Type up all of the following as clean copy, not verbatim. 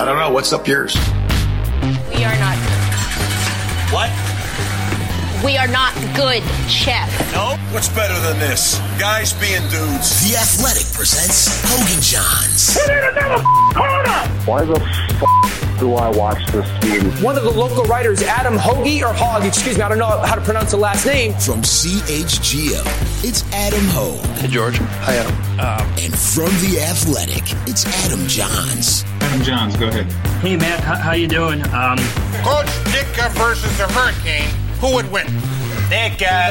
I don't know. What's up yours? We are not good. What? We are not good, Chef. No? What's better than this? Guys being dudes. The Athletic presents Hogan Johns. Why the f*** do I watch this team? One of the local writers, Adam Hoagie, or Hogg, excuse me, I don't know how to pronounce the last name. From CHGO, it's Adam Hogue. Hey, George. Hi, Adam. And from The Athletic, it's Adam Johns. Adam Johns, go ahead. Hey, Matt, how you doing? Coach Ditka versus the Hurricane. Who would win? Ditka.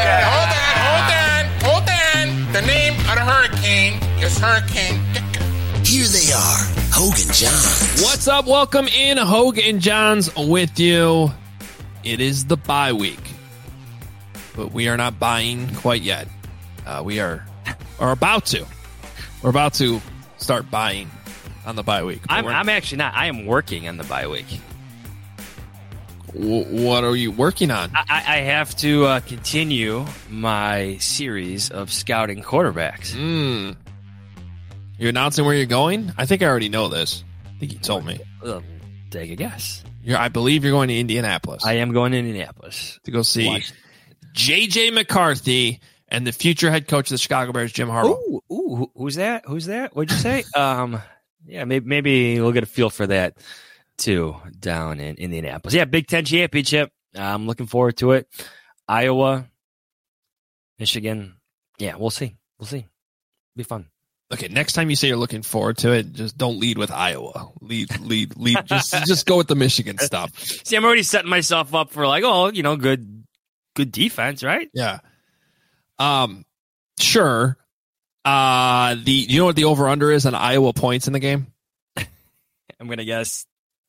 Hold on. The name of the Hurricane is Hurricane Ditka. Here they are, Hogan Johns. What's up? Welcome in, Hogan Johns with you. It is the bye week, but we are not buying quite yet. We are about to. We're about to start buying on the bye week. I'm actually not. I am working on the bye week. What are you working on? I have to continue my series of scouting quarterbacks. You're announcing where you're going? I think I already know this. I think you told me. Take a guess. I believe you're going to Indianapolis. I am going to Indianapolis to go see J.J. McCarthy and the future head coach of the Chicago Bears, Jim Harbaugh. Ooh, who's that? What'd you say? Yeah, maybe we'll get a feel for that too down in Indianapolis. Yeah, Big Ten championship. I'm looking forward to it. Iowa, Michigan. Yeah, we'll see. Be fun. Okay, next time you say you're looking forward to it, just don't lead with Iowa. Lead. just go with the Michigan stuff. See, I'm already setting myself up for good defense, right? Yeah. Sure. You know what the over under is on Iowa points in the game? I'm gonna guess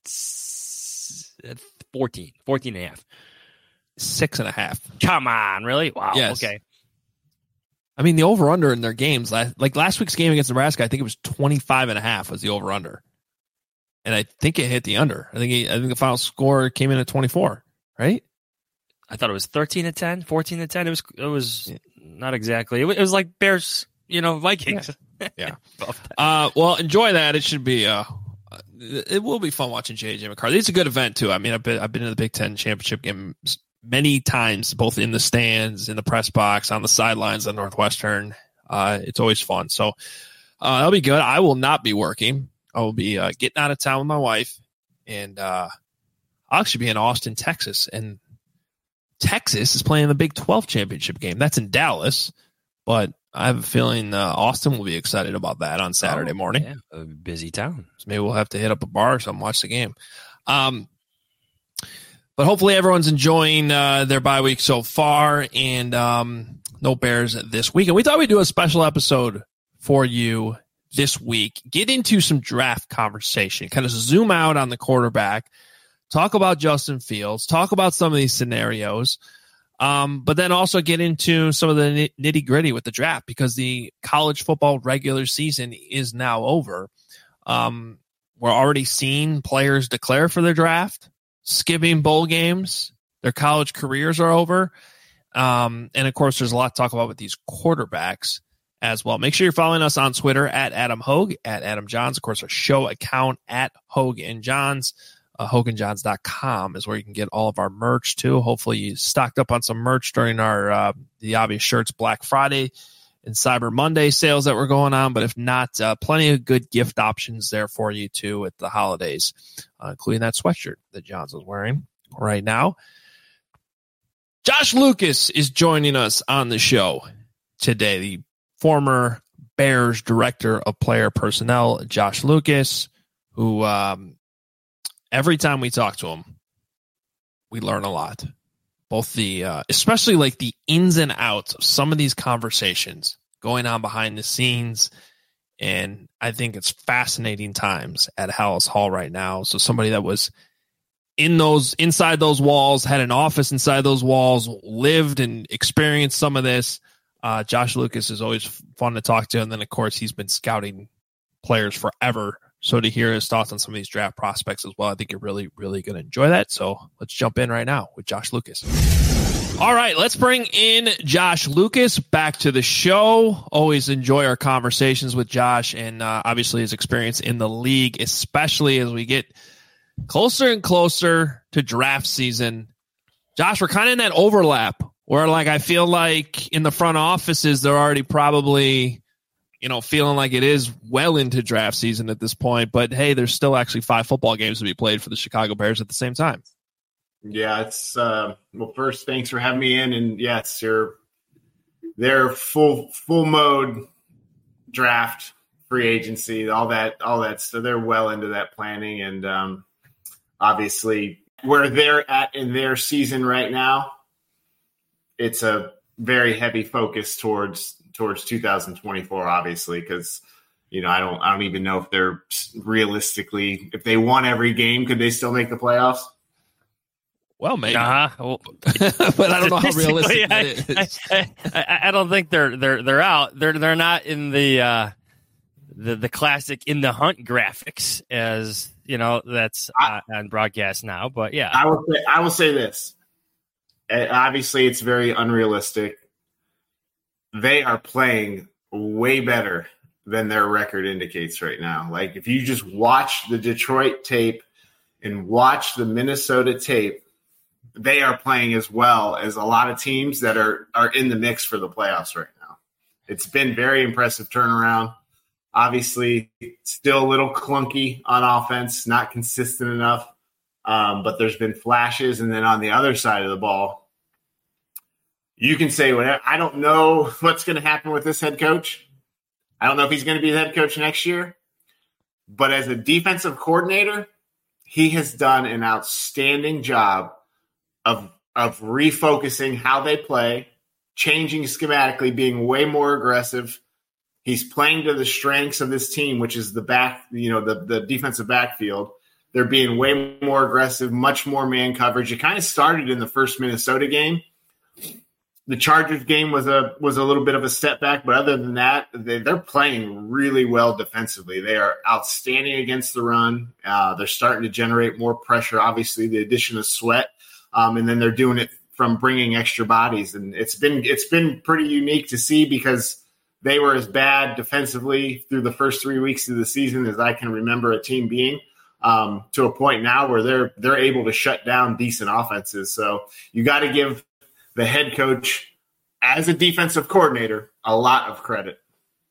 14 and a half. 6.5. Come on, really? Wow. Yes. Okay. I mean, the over-under in their games, like last week's game against Nebraska, I think it was 25.5 was the over-under. And I think it hit the under. I think the final score came in at 24, right? I thought it was 13-10, 14-10. It was not exactly. It was like Bears, Vikings. Yeah. Well, enjoy that. It should be it will be fun watching J.J. McCarthy. It's a good event too. I mean, I've been in the Big Ten championship game many times, both in the stands, in the press box, on the sidelines at Northwestern. It's always fun. So that'll be good. I will not be working. I will be getting out of town with my wife, and I'll actually be in Austin, Texas. And Texas is playing the Big 12 championship game. That's in Dallas, but I have a feeling Austin will be excited about that on Saturday morning. Yeah, a busy town. So maybe we'll have to hit up a bar or something, watch the game. But hopefully everyone's enjoying their bye week so far, and no Bears this week. And we thought we'd do a special episode for you this week. Get into some draft conversation, kind of zoom out on the quarterback, talk about Justin Fields, talk about some of these scenarios, but then also get into some of the nitty gritty with the draft, because the college football regular season is now over. We're already seeing players declare for their draft, skipping bowl games. Their college careers are over. And of course, there's a lot to talk about with these quarterbacks as well. Make sure you're following us on Twitter at Adam Hogue, at Adam Johns. Of course, our show account at Hogue and Johns. HoganJohns.com is where you can get all of our merch too. Hopefully you stocked up on some merch during our the Obvious Shirts Black Friday and Cyber Monday sales that were going on. But if not, plenty of good gift options there for you too at the holidays, including that sweatshirt that Johns is wearing right now. Josh Lucas is joining us on the show today, the former Bears director of player personnel, Josh Lucas, who every time we talk to him, we learn a lot. Both the, especially like the ins and outs of some of these conversations going on behind the scenes. And I think it's fascinating times at Hallis Hall right now. So somebody that was inside those walls, had an office inside those walls, lived and experienced some of this. Josh Lucas is always fun to talk to. And then of course he's been scouting players forever. So to hear his thoughts on some of these draft prospects as well, I think you're really, really going to enjoy that. So let's jump in right now with Josh Lucas. All right, let's bring in Josh Lucas back to the show. Always enjoy our conversations with Josh and obviously his experience in the league, especially as we get closer and closer to draft season. Josh, we're kind of in that overlap where I feel like in the front offices, they're already probably, feeling like it is well into draft season at this point. But hey, there's still actually 5 football games to be played for the Chicago Bears at the same time. Yeah, it's well, first, thanks for having me in. And yes, they're full mode draft, free agency, all that. So they're well into that planning. And obviously where they're at in their season right now, it's a very heavy focus towards 2024, obviously, because, I don't even know if they're realistically, if they won every game, could they still make the playoffs? Well, maybe, well, but I don't know how realistic that is. I don't think they're out. They're not in the classic in the hunt graphics as that's on broadcast now. But yeah, I will say this. Obviously, it's very unrealistic. They are playing way better than their record indicates right now. Like if you just watch the Detroit tape and watch the Minnesota tape, they are playing as well as a lot of teams that are in the mix for the playoffs right now. It's been very impressive turnaround. Obviously, still a little clunky on offense, not consistent enough, but there's been flashes. And then on the other side of the ball, you can say whatever. I don't know what's going to happen with this head coach. I don't know if he's going to be the head coach next year. But as a defensive coordinator, he has done an outstanding job of refocusing how they play, changing schematically, being way more aggressive. He's playing to the strengths of this team, which is the the defensive backfield. They're being way more aggressive, much more man coverage. It kind of started in the first Minnesota game. The Chargers game was a little bit of a step back, but other than that, they're playing really well defensively. They are outstanding against the run. They're starting to generate more pressure. Obviously, the addition of Sweat, and then they're doing it from bringing extra bodies, and it's been pretty unique to see because they were as bad defensively through the first 3 weeks of the season as I can remember a team being. To a point now where they're able to shut down decent offenses. So you got to give the head coach, as a defensive coordinator, a lot of credit.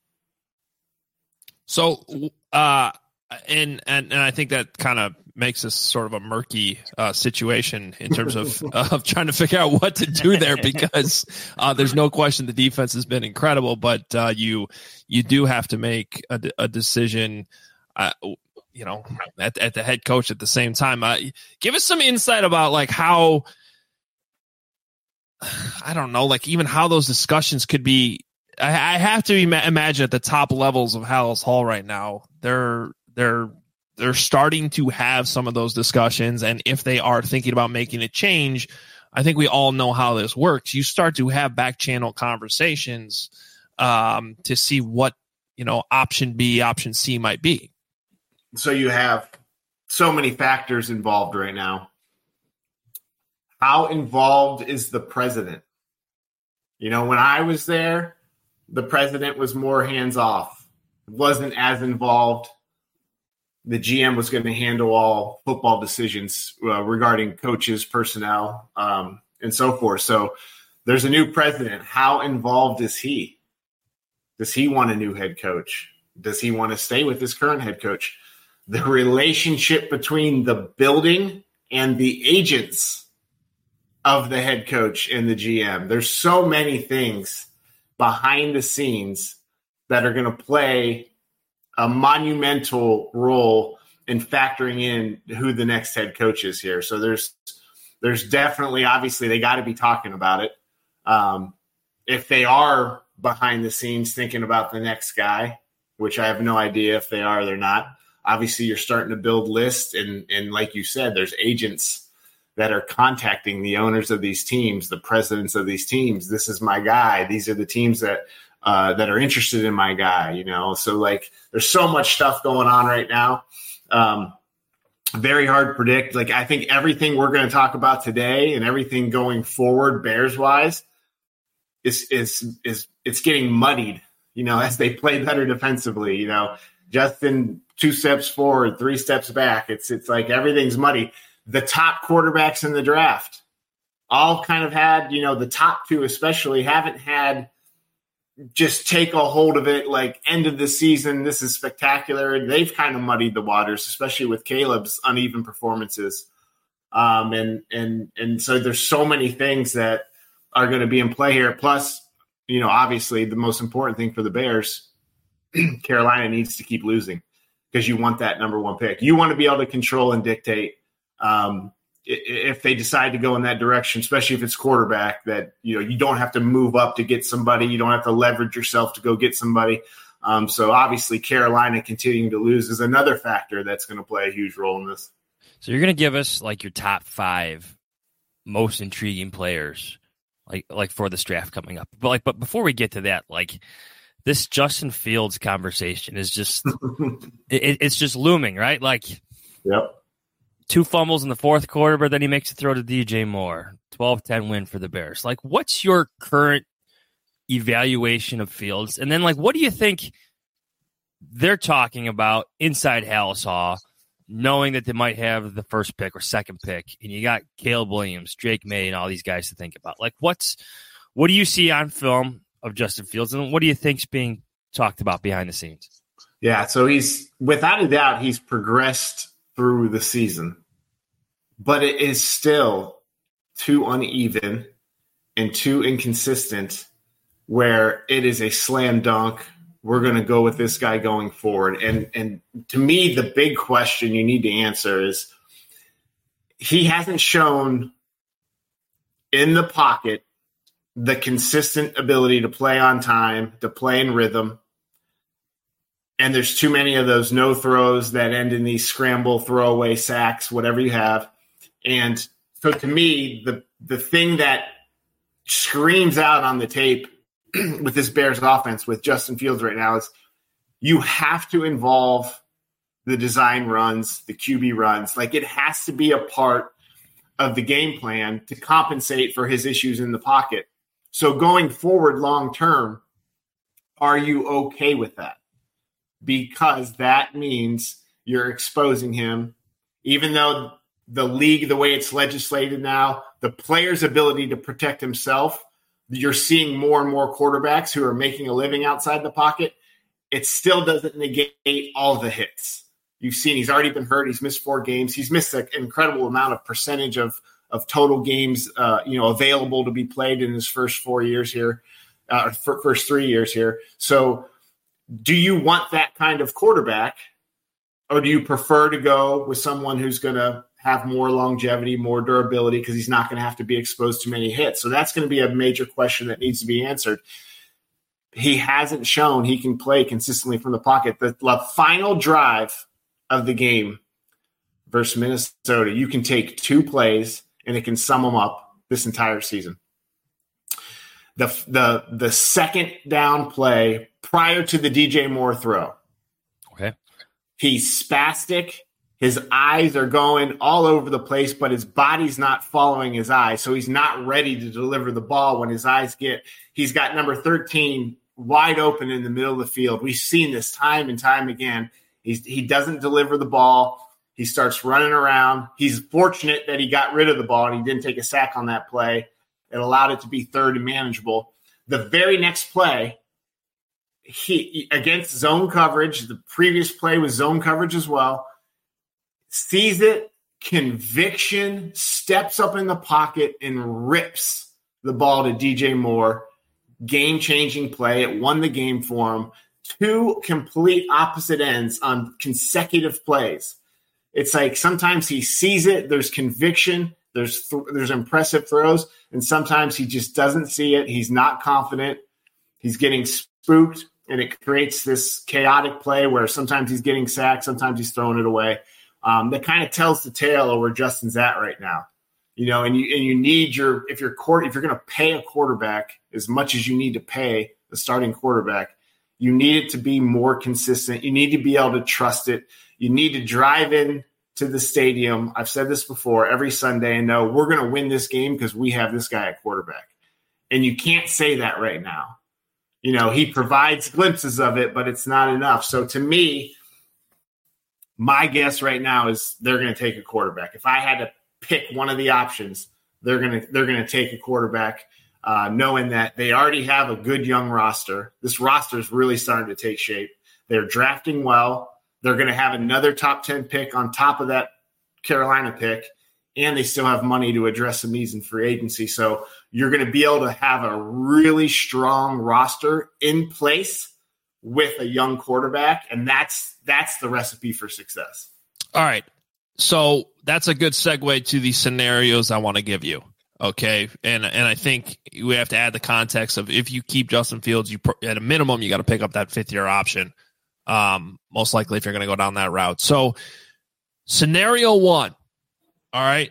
So, and I think that kind of makes this sort of a murky situation in terms of trying to figure out what to do there because there's no question the defense has been incredible, but you do have to make a decision. At the head coach at the same time. Give us some insight about how. I don't know, even how those discussions could be. I have to imagine at the top levels of Halas Hall right now, they're starting to have some of those discussions. And if they are thinking about making a change, I think we all know how this works. You start to have back channel conversations to see what, option B, option C might be. So you have so many factors involved right now. How involved is the president? When I was there, the president was more hands-off. Wasn't as involved. The GM was going to handle all football decisions regarding coaches, personnel, and so forth. So there's a new president. How involved is he? Does he want a new head coach? Does he want to stay with his current head coach? The relationship between the building and the agents of the head coach and the GM. There's so many things behind the scenes that are going to play a monumental role in factoring in who the next head coach is here. So there's definitely, obviously, they got to be talking about it. If they are behind the scenes thinking about the next guy, which I have no idea if they are or they're not, obviously you're starting to build lists. And like you said, there's agents that are contacting the owners of these teams, the presidents of these teams. This is my guy. These are the teams that are interested in my guy, So there's so much stuff going on right now. very hard to predict. Like, I think everything we're going to talk about today and everything going forward, Bears-wise, is it's getting muddied, as they play better defensively. Justin 2 steps forward, 3 steps back. It's like everything's muddy. The top quarterbacks in the draft all kind of had, the top 2 especially haven't had just take a hold of it like end of the season. This is spectacular. They've kind of muddied the waters, especially with Caleb's uneven performances. And so there's so many things that are going to be in play here. Plus, obviously the most important thing for the Bears, Carolina needs to keep losing because you want that number 1 pick. You want to be able to control and dictate. If they decide to go in that direction, especially if it's quarterback, that you don't have to move up to get somebody, you don't have to leverage yourself to go get somebody. So obviously Carolina continuing to lose is another factor that's going to play a huge role in this. So you're going to give us like your top 5 most intriguing players, like for this draft coming up. But before we get to that, like this Justin Fields conversation is just it's just looming, right? Like, yep. 2 fumbles in the fourth quarter, but then he makes a throw to DJ Moore. 12-10 win for the Bears. Like, what's your current evaluation of Fields? And then, like, what do you think they're talking about inside Halas Hall, knowing that they might have the first pick or second pick, and you got Caleb Williams, Drake May, and all these guys to think about? Like, what do you see on film of Justin Fields, and what do you think's being talked about behind the scenes? Yeah, so he's, without a doubt, he's progressed through the season, but it is still too uneven and too inconsistent where it is a slam dunk. We're going to go with this guy going forward. And to me, the big question you need to answer is he hasn't shown in the pocket the consistent ability to play on time, to play in rhythm. And there's too many of those no throws that end in these scramble, throwaway sacks, whatever you have. And so to me, the thing that screams out on the tape with this Bears offense with Justin Fields right now is you have to involve the design runs, the QB runs. Like, it has to be a part of the game plan to compensate for his issues in the pocket. So going forward long term, are you okay with that? Because that means you're exposing him, even though the league, the way it's legislated now, the player's ability to protect himself, you're seeing more and more quarterbacks who are making a living outside the pocket. It still doesn't negate all the hits. You've seen he's already been hurt. He's missed 4 games. He's missed an incredible amount of percentage of total games, available to be played in his first 4 years here, first 3 years here. So, do you want that kind of quarterback, or do you prefer to go with someone who's going to have more longevity, more durability, because he's not going to have to be exposed to many hits? So that's going to be a major question that needs to be answered. He hasn't shown he can play consistently from the pocket. The final drive of the game versus Minnesota, you can take 2 plays and it can sum them up this entire season. The second down play prior to the DJ Moore throw. Okay. He's spastic. His eyes are going all over the place, but his body's not following his eyes. So he's not ready to deliver the ball when his eyes he's got number 13 wide open in the middle of the field. We've seen this time and time again. He doesn't deliver the ball. He starts running around. He's fortunate that he got rid of the ball and he didn't take a sack on that play. It allowed it to be third and manageable. The very next play, he against zone coverage, the previous play was zone coverage as well, sees it, conviction, steps up in the pocket and rips the ball to DJ Moore. Game-changing play. It won the game for him. 2 complete opposite ends on consecutive plays. It's like sometimes he sees it, there's conviction, there's impressive throws, and sometimes he just doesn't see it. He's not confident. He's getting spooked, and it creates this chaotic play where sometimes he's getting sacked, sometimes he's throwing it away. That kind of tells the tale of where Justin's at right now. And you need if you're going to pay a quarterback as much as you need to pay the starting quarterback, you need it to be more consistent. You need to be able to trust it. You need to drive in to the stadium, I've said this before, every Sunday, and know we're going to win this game because we have this guy at quarterback. And you can't say that right now. You know, he provides glimpses of it, but it's not enough. So to me, my guess right now is they're going to take a quarterback. If I had to pick one of the options, they're going to take a quarterback, knowing that they already have a good young roster. This roster is really starting to take shape. They're drafting well. They're going to have another top 10 pick on top of that Carolina pick, and they still have money to address some needs in free agency. So you're going to be able to have a really strong roster in place with a young quarterback, and that's the recipe for success. All right. So that's a good segue to the scenarios I want to give you. Okay. And I think we have to add the context of if you keep Justin Fields, you at a minimum, you got to pick up that 5th-year option. Most likely if you're going to go down that route. So scenario 1. All right.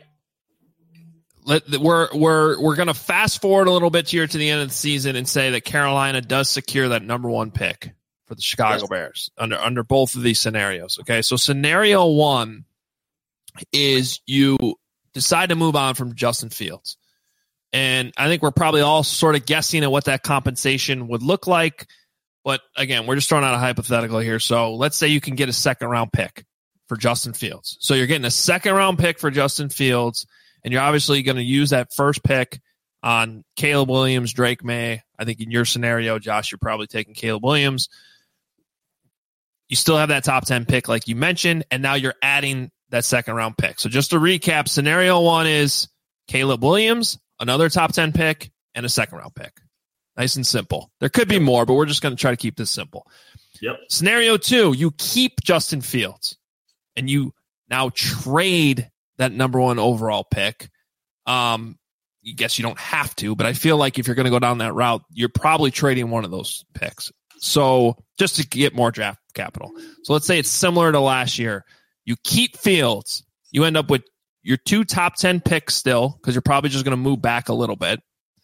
We're going to fast forward a little bit here to the end of the season and say that Carolina does secure that number 1 pick for the Chicago Bears under both of these scenarios. Okay. So scenario 1 is you decide to move on from Justin Fields. And I think we're probably all sort of guessing at what that compensation would look like. But again, we're just throwing out a hypothetical here. So let's say you can get a 2nd-round pick for Justin Fields. So you're getting a 2nd-round pick for Justin Fields, and you're obviously going to use that first pick on Caleb Williams, Drake May. I think in your scenario, Josh, you're probably taking Caleb Williams. You still have that top 10 pick like you mentioned, and now you're adding that 2nd-round pick. So just to recap, scenario 1 is Caleb Williams, another top 10 pick, and a 2nd-round pick. Nice and simple. There could be more, but we're just going to try to keep this simple. Yep. Scenario 2, you keep Justin Fields, and you now trade that number 1 overall pick. I guess you don't have to, but I feel like if you're going to go down that route, you're probably trading one of those picks. So just to get more draft capital. So let's say it's similar to last year. You keep Fields. You end up with your 2 top 10 picks still, because you're probably just going to move back a little bit.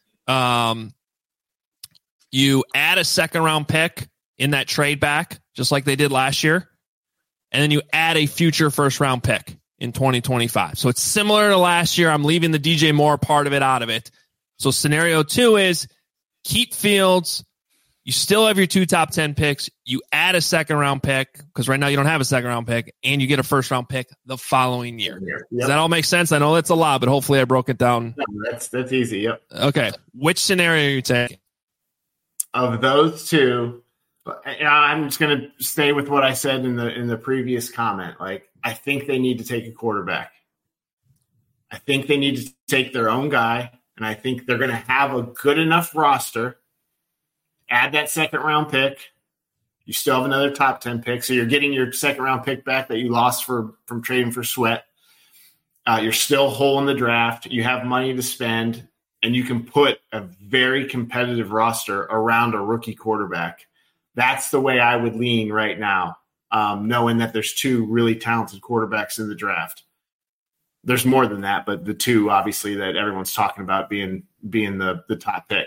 You add a 2nd-round pick in that trade back, just like they did last year. And then you add a future 1st-round pick in 2025. So it's similar to last year. I'm leaving the DJ Moore part of it out of it. So scenario 2 is keep Fields. You still have your 2 top 10 picks. You add a 2nd-round pick, because right now you don't have a 2nd-round pick, and you get a 1st-round pick the following year. Yep. Does that all make sense? I know that's a lot, but hopefully I broke it down. No, that's easy. Yep. Okay. Which scenario are you taking? Of those 2, I'm just going to stay with what I said in the previous comment. Like, I think they need to take a quarterback. I think they need to take their own guy, and I think they're going to have a good enough roster. Add that 2nd-round pick. You still have another top 10 pick, so you're getting your 2nd-round pick back that you lost from trading for Sweat. You're still whole in the draft. You have money to spend, and you can put a very competitive roster around a rookie quarterback. That's the way I would lean right now, knowing that there's 2 really talented quarterbacks in the draft. There's more than that, but the 2, obviously, that everyone's talking about being the top pick.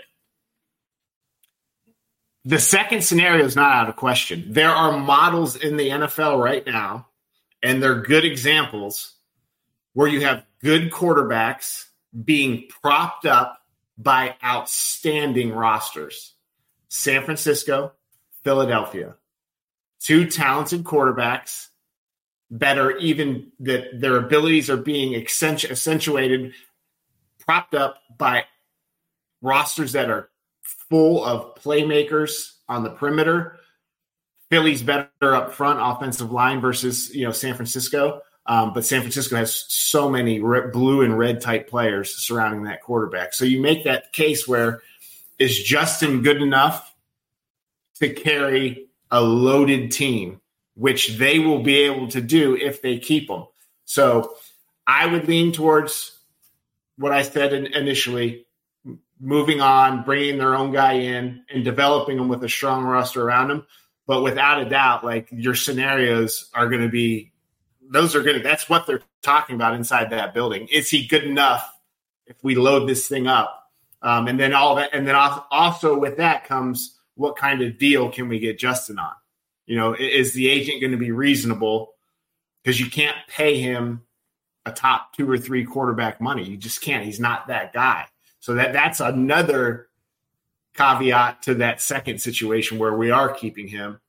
The second scenario is not out of question. There are models in the NFL right now, and they're good examples, where you have good quarterbacks being propped up by outstanding rosters. San Francisco, Philadelphia. 2 talented quarterbacks that are even that their abilities are being accentuated, propped up by rosters that are full of playmakers on the perimeter. Philly's better up front, offensive line versus San Francisco. But San Francisco has so many blue and red type players surrounding that quarterback. So you make that case where is Justin good enough to carry a loaded team, which they will be able to do if they keep him. So I would lean towards what I said initially, moving on, bringing their own guy in and developing them with a strong roster around them. But without a doubt, like, your scenarios are going to be, that's what they're talking about inside that building. Is he good enough if we load this thing up? And then also with that comes, what kind of deal can we get Justin on? Is the agent going to be reasonable? because you can't pay him a top 2 or 3 quarterback money. You just can't. He's not that guy. So that's another caveat to that second situation where we are keeping him.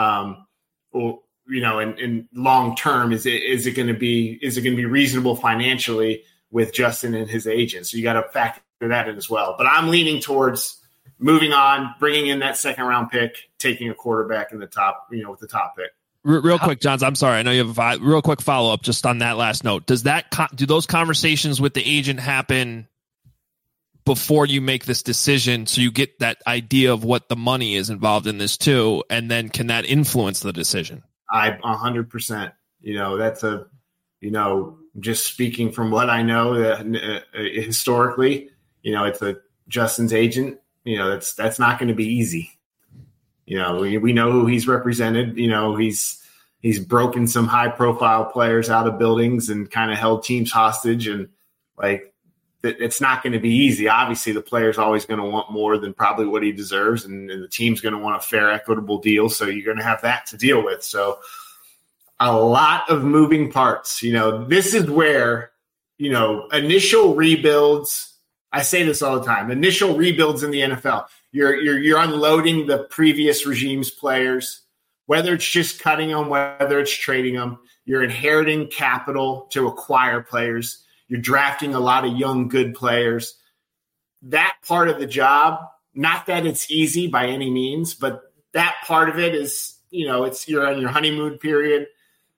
In long term, is it going to be reasonable financially with Justin and his agent? So you got to factor that in as well. But I'm leaning towards moving on, bringing in that second round pick, taking a quarterback in the top, with the top pick. Real quick, Johns, I'm sorry. I know you have a real quick follow up just on that last note. Do those conversations with the agent happen before you make this decision, so you get that idea of what the money is involved in this too, and then can that influence the decision? 100%. That's just speaking from what I know historically, it's Justin's agent. That's not going to be easy. We know who he's represented. He's broken some high profile players out of buildings and kind of held teams hostage, and it's not going to be easy. Obviously, the player's always going to want more than probably what he deserves, and the team's going to want a fair, equitable deal. So you're going to have that to deal with. So a lot of moving parts. This is where, initial rebuilds. I say this all the time. Initial rebuilds in the NFL. You're unloading the previous regime's players, whether it's just cutting them, whether it's trading them. You're inheriting capital to acquire players. You're drafting a lot of young, good players. That part of the job, not that it's easy by any means, but that part of it is, you're on your honeymoon period.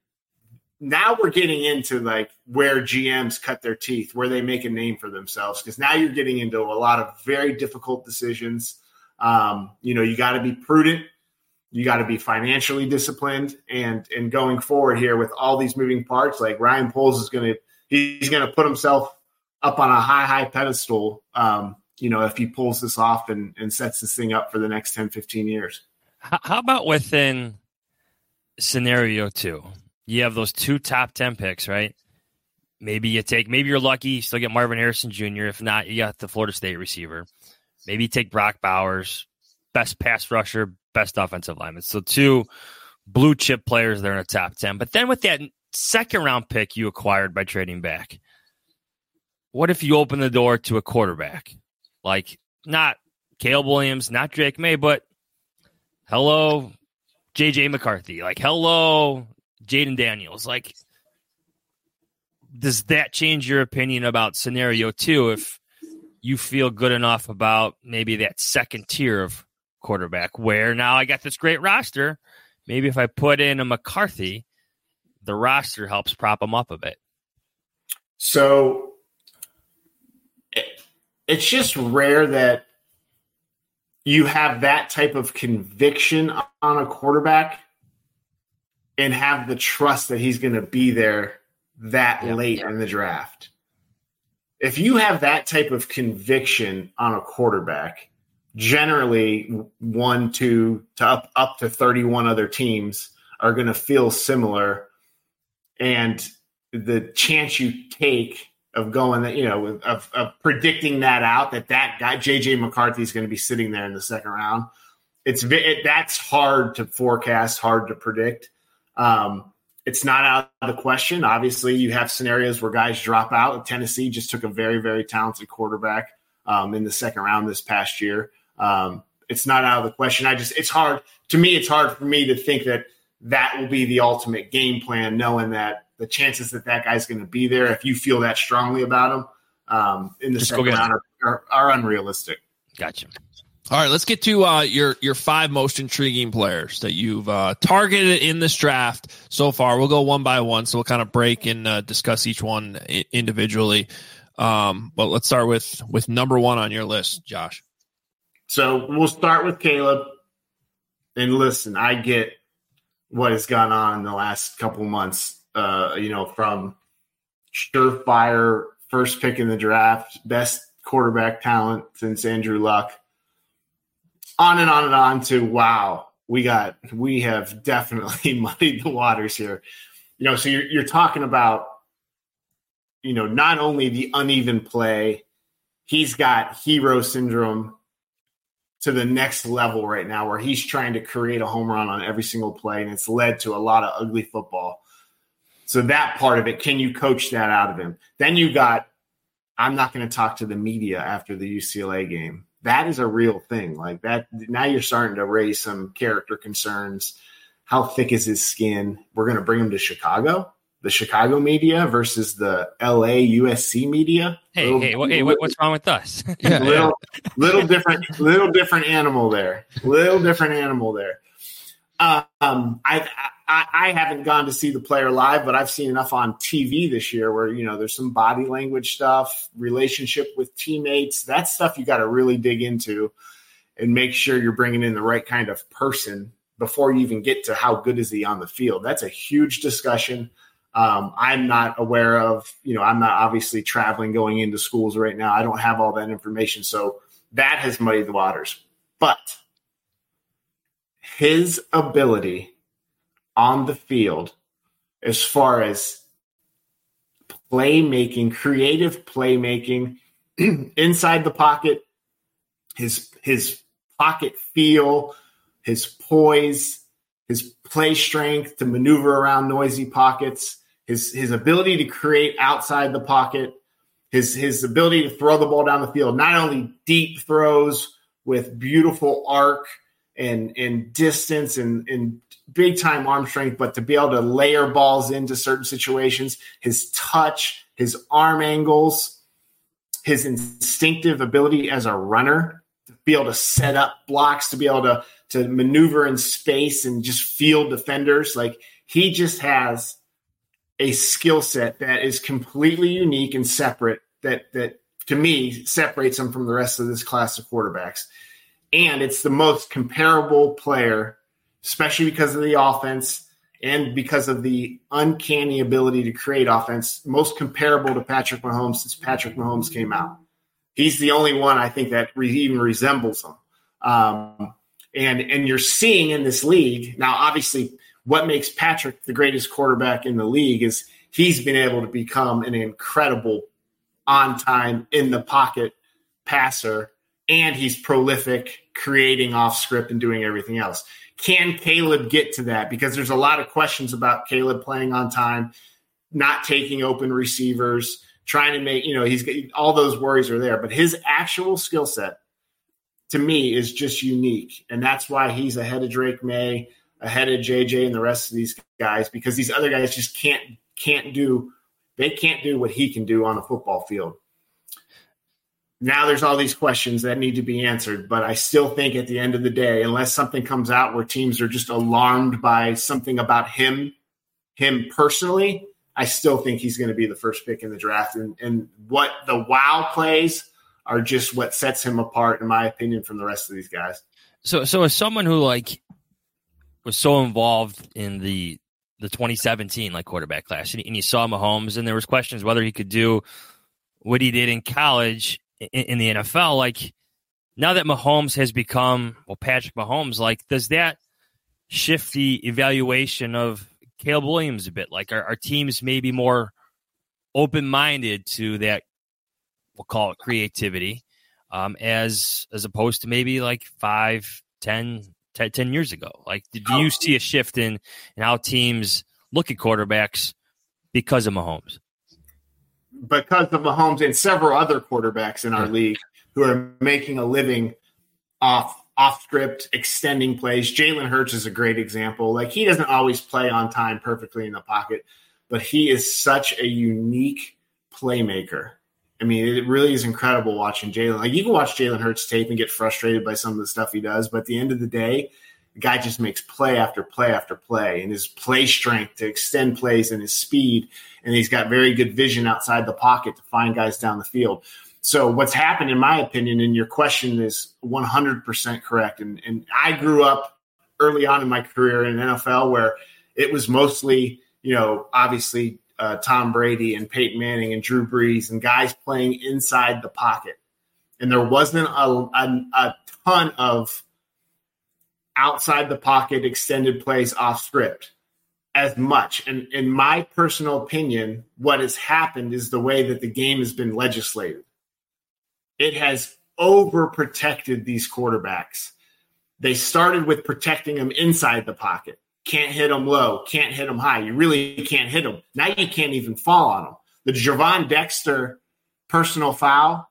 Now we're getting into where GMs cut their teeth, where they make a name for themselves, because now you're getting into a lot of very difficult decisions. You got to be prudent. You got to be financially disciplined. And going forward here with all these moving parts, like Ryan Poles he's going to put himself up on a high pedestal, if he pulls this off and sets this thing up for the next 10, 15 years. How about within scenario 2? You have those 2 top 10 picks, right? Maybe you're lucky, you still get Marvin Harrison Jr. If not, you got the Florida State receiver. Maybe you take Brock Bowers, best pass rusher, best offensive lineman. So 2 blue chip players there in the top 10. But then with that second round pick you acquired by trading back, what if you open the door to a quarterback? Not Caleb Williams, not Drake May, but hello, J.J. McCarthy. Hello, Jaden Daniels. Does that change your opinion about scenario 2 if you feel good enough about maybe that second tier of quarterback where now I got this great roster? Maybe if I put in a McCarthy, the roster helps prop him up a bit. So it's just rare that you have that type of conviction on a quarterback and have the trust that he's going to be there late in the draft. If you have that type of conviction on a quarterback, generally 1, 2 to up to 31 other teams are going to feel similar. And the chance you take of going, of predicting that out, that guy, J.J. McCarthy, is going to be sitting there in the second round, that's hard to forecast, hard to predict. It's not out of the question. Obviously, you have scenarios where guys drop out. Tennessee just took a very, very talented quarterback in the second round this past year. It's not out of the question. It's hard for me to think that will be the ultimate game plan, knowing that the chances that guy's going to be there, if you feel that strongly about him, in the second round are unrealistic. Gotcha. All right, let's get to your 5 most intriguing players that you've targeted in this draft so far. We'll go one by one, so we'll kind of break and discuss each one individually. But let's start with number 1 on your list, Josh. So we'll start with Caleb. And listen, I get what has gone on in the last couple of months, from surefire first pick in the draft, best quarterback talent since Andrew Luck, on and on and on to, wow, we have definitely muddied the waters here. So you're talking about, not only the uneven play, he's got hero syndrome to the next level right now, where he's trying to create a home run on every single play, and it's led to a lot of ugly football. So that part of it, can you coach that out of him? Then you got, I'm not going to talk to the media after the UCLA game. That is a real thing. Like that, now you're starting to raise some character concerns. How thick is his skin? We're going to bring him to Chicago, the Chicago media versus the LA USC media. What's wrong with us? little different animal there. I haven't gone to see the player live, but I've seen enough on TV this year where, there's some body language stuff, relationship with teammates. That stuff you got to really dig into and make sure you're bringing in the right kind of person before you even get to how good is he on the field. That's a huge discussion. I'm not aware of, I'm not obviously traveling, going into schools right now. I don't have all that information. So that has muddied the waters. But his ability on the field, as far as playmaking, creative playmaking, inside the pocket, his pocket feel, his poise, his play strength to maneuver around noisy pockets, his ability to create outside the pocket, his ability to throw the ball down the field, not only deep throws with beautiful arc and distance and big time arm strength, but to be able to layer balls into certain situations, his touch, his arm angles, his instinctive ability as a runner to be able to set up blocks, to be able to maneuver in space and just field defenders. Like, he just has a skill set that is completely unique and separate that to me separates him from the rest of this class of quarterbacks. And it's the most comparable player, especially because of the offense and because of the uncanny ability to create offense, most comparable to Patrick Mahomes since Patrick Mahomes came out. He's the only one I think that even resembles him. And you're seeing in this league now, obviously, what makes Patrick the greatest quarterback in the league is he's been able to become an incredible on-time, in-the-pocket passer, and he's prolific, creating off script and doing everything else. Can Caleb get to that? Because there's a lot of questions about Caleb playing on time, not taking open receivers, trying to make, he's all those worries are there. But his actual skill set, to me, is just unique. And that's why he's ahead of Drake May, ahead of JJ and the rest of these guys, because these other guys just can't do what he can do on a football field. Now there's all these questions that need to be answered, but I still think at the end of the day, unless something comes out where teams are just alarmed by something about him personally, I still think he's going to be the first pick in the draft. And what the wow plays are just what sets him apart, in my opinion, from the rest of these guys. So as someone who was so involved in the 2017 quarterback class, and you saw Mahomes, and there was questions whether he could do what he did in college in the NFL. Now that Mahomes has become Patrick Mahomes, does that shift the evaluation of Caleb Williams a bit? Are teams maybe more open-minded to that, we'll call it creativity, as opposed to maybe 5, 10 years ago? Do you see a shift in how teams look at quarterbacks because of Mahomes? Because of Mahomes and several other quarterbacks in our league who are making a living off script, extending plays. Jalen Hurts is a great example. He doesn't always play on time perfectly in the pocket, but he is such a unique playmaker. I mean, it really is incredible watching Jalen. You can watch Jalen Hurts tape and get frustrated by some of the stuff he does, but at the end of the day, the guy just makes play after play after play, and his play strength to extend plays and his speed, and he's got very good vision outside the pocket to find guys down the field. So what's happened, in my opinion, and your question is 100% correct, and I grew up early on in my career in NFL where it was mostly, obviously Tom Brady and Peyton Manning and Drew Brees and guys playing inside the pocket. And there wasn't a ton of outside the pocket extended plays off script as much. And in my personal opinion, what has happened is the way that the game has been legislated. It has overprotected these quarterbacks. They started with protecting them inside the pocket, can't hit them low, can't hit them high. You really can't hit them. Now you can't even fall on them. The Javon Dexter personal foul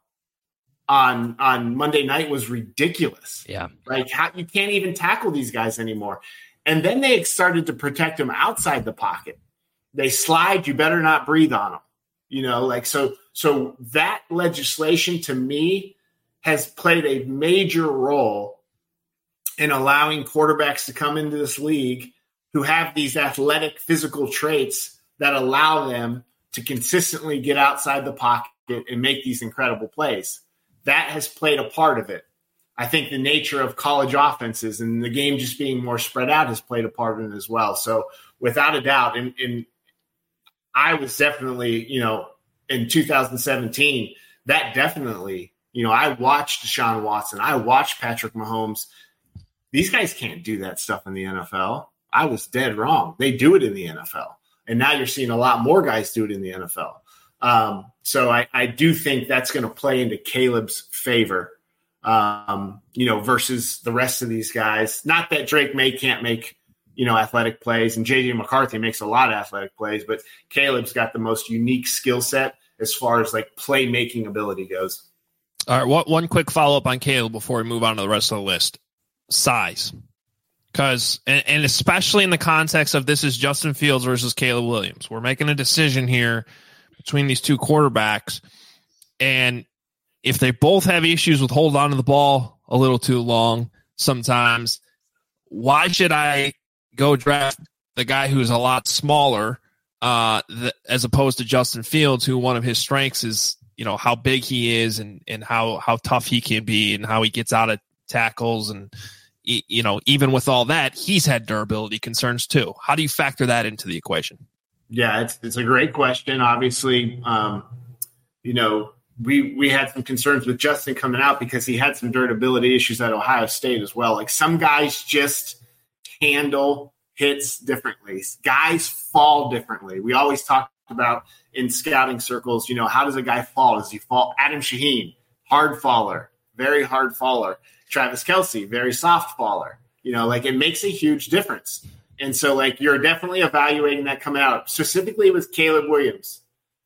on Monday night was ridiculous. Yeah. Like, you can't even tackle these guys anymore. And then they started to protect them outside the pocket. They slide, you better not breathe on them. You know, like, so that legislation to me has played a major role in allowing quarterbacks to come into this league who have these athletic physical traits that allow them to consistently get outside the pocket and make these incredible plays. That has played a part of it. I think the nature of college offenses and the game just being more spread out has played a part in it as well. So without a doubt, and I was definitely, you know, in 2017, that definitely, you know, I watched Deshaun Watson. I watched Patrick Mahomes. These guys can't do that stuff in the NFL. I was dead wrong. They do it in the NFL. And now you're seeing a lot more guys do it in the NFL. So I do think that's going to play into Caleb's favor, you know, versus the rest of these guys. Not that Drake May can't make, you know, athletic plays, and J.J. McCarthy makes a lot of athletic plays, but Caleb's got the most unique skill set as far as like playmaking ability goes. All right, one quick follow-up on Caleb before we move on to the rest of the list. Size. Because, and especially in the context of this is Justin Fields versus Caleb Williams. We're making a decision here between these two quarterbacks, and if they both have issues with holding on to the ball a little too long sometimes, why should I go draft the guy who's a lot smaller as opposed to Justin Fields, who one of his strengths is, you know, how big he is and how tough he can be and how he gets out of tackles. And, you know, even with all that, he's had durability concerns too. How do you factor that into the equation? Yeah, it's a great question. Obviously, you know, we had some concerns with Justin coming out because he had some durability issues at Ohio State as well. Like, some guys just handle hits differently. Guys fall differently. We always talk about in scouting circles, you know, how does a guy fall? Does he fall? Adam Shaheen, hard faller, very hard faller. Travis Kelce, very soft faller. You know, like, it makes a huge difference. And so, like, you're definitely evaluating that coming out, specifically with Caleb Williams.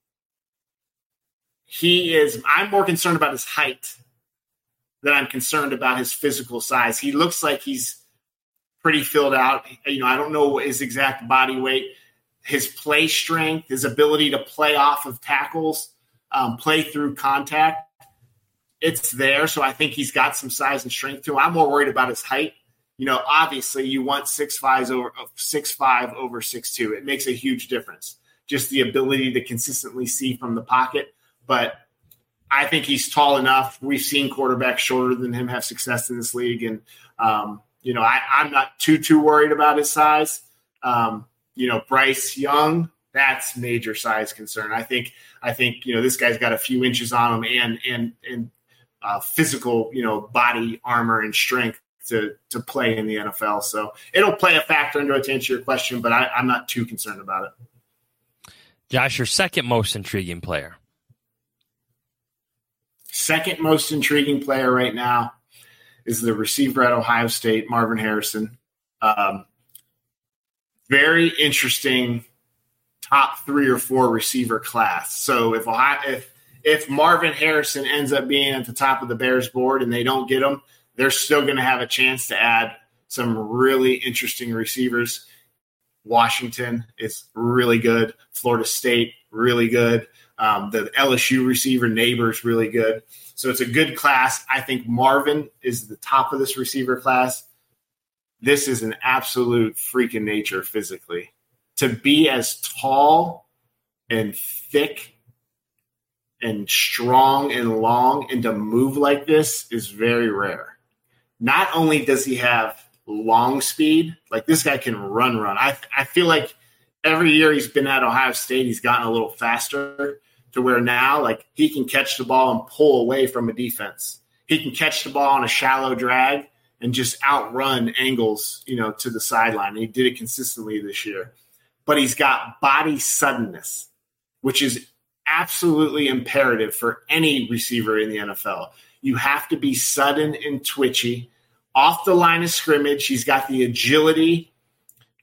I'm more concerned about his height than I'm concerned about his physical size. He looks like he's pretty filled out. You know, I don't know his exact body weight, his play strength, his ability to play off of tackles, play through contact. It's there. So I think he's got some size and strength to him. I'm more worried about his height. You know, obviously you want 6'5" over 6'2". It makes a huge difference. Just the ability to consistently see from the pocket. But I think he's tall enough. We've seen quarterbacks shorter than him have success in this league. And, you know, I'm not too worried about his size. You know, Bryce Young, that's major size concern. I think, you know, this guy's got a few inches on him and physical, you know, body armor and strength to play in the NFL. So it'll play a factor into it to answer your question, but I'm not too concerned about it. Josh, your second most intriguing player. Second most intriguing player right now is the receiver at Ohio State, Marvin Harrison. Very interesting top 3 or 4 receiver class. So if Marvin Harrison ends up being at the top of the Bears board and they don't get him, they're still going to have a chance to add some really interesting receivers. Washington is really good. Florida State, really good. The LSU receiver, Neighbors, really good. So it's a good class. I think Marvin is the top of this receiver class. This is an absolute freak of nature physically. To be as tall and thick and strong and long and to move like this is very rare. Not only does he have long speed, like, this guy can run. I feel like every year he's been at Ohio State, he's gotten a little faster to where now, like, he can catch the ball and pull away from a defense. He can catch the ball on a shallow drag and just outrun angles, you know, to the sideline. And he did it consistently this year. But he's got body suddenness, which is absolutely imperative for any receiver in the NFL. You have to be sudden and twitchy. Off the line of scrimmage, he's got the agility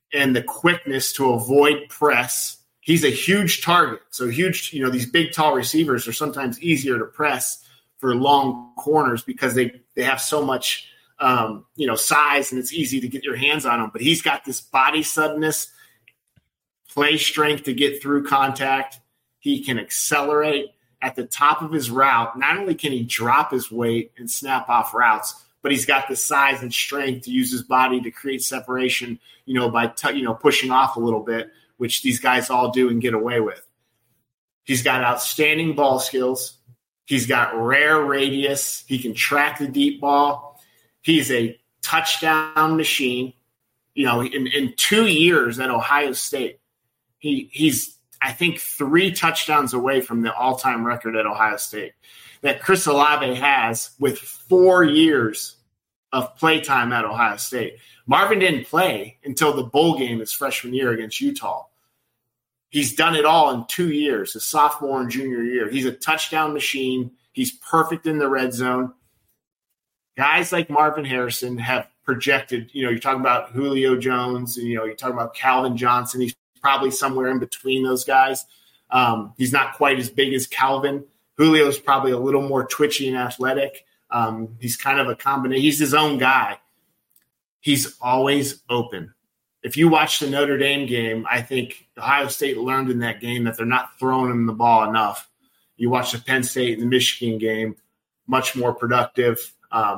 and the quickness to avoid press. He's a huge target. So huge, these big, tall receivers are sometimes easier to press for long corners because they have so much, size, and it's easy to get your hands on them. But he's got this body suddenness, play strength to get through contact. He can accelerate at the top of his route. Not only can he drop his weight and snap off routes, but he's got the size and strength to use his body to create separation, by pushing off a little bit, which these guys all do and get away with. He's got outstanding ball skills. He's got rare radius. He can track the deep ball. He's a touchdown machine. In 2 years at Ohio State, he's I think 3 touchdowns away from the all-time record at Ohio State that Chris Olave has with 4 years of playtime at Ohio State. Marvin didn't play until the bowl game his freshman year against Utah. He's done it all in 2 years, his sophomore and junior year. He's a touchdown machine. He's perfect in the red zone. Guys like Marvin Harrison have projected, you're talking about Julio Jones, and, you're talking about Calvin Johnson. He's probably somewhere in between those guys. He's not quite as big as Calvin. Julio's probably a little more twitchy and athletic. He's kind of a combination. He's his own guy. He's always open. If you watch the Notre Dame game, I think Ohio State learned in that game that they're not throwing him the ball enough. You watch the Penn State and the Michigan game, much more productive.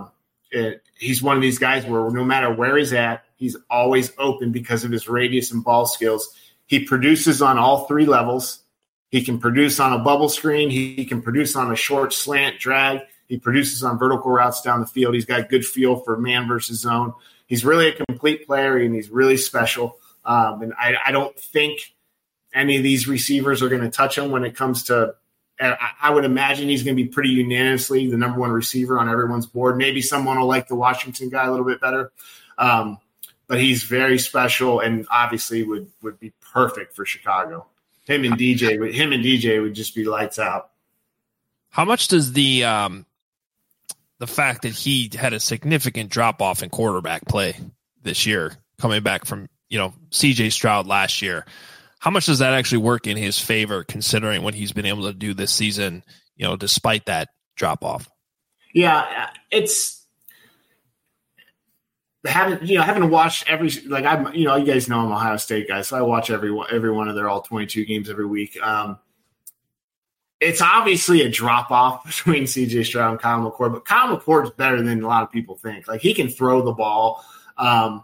He's one of these guys where no matter where he's at, he's always open because of his radius and ball skills. He produces on all 3 levels. He can produce on a bubble screen. He can produce on a short slant drag. He produces on vertical routes down the field. He's got good feel for man versus zone. He's really a complete player, and he's really special. And I don't think any of these receivers are going to touch him when it comes to – I would imagine he's going to be pretty unanimously the number 1 receiver on everyone's board. Maybe someone will like the Washington guy a little bit better. But he's very special and obviously would be perfect for Chicago. Him and DJ would just be lights out. How much does the fact that he had a significant drop off in quarterback play this year, coming back from CJ Stroud last year, how much does that actually work in his favor, considering what he's been able to do this season, despite that drop off? Yeah, it's having watched every, like, I'm, you guys know I'm an Ohio State guy, so I watch every one of their all 22 games every week. It's obviously a drop off between CJ Stroud and Kyle McCord, but Kyle McCord's better than a lot of people think. Like, he can throw the ball. I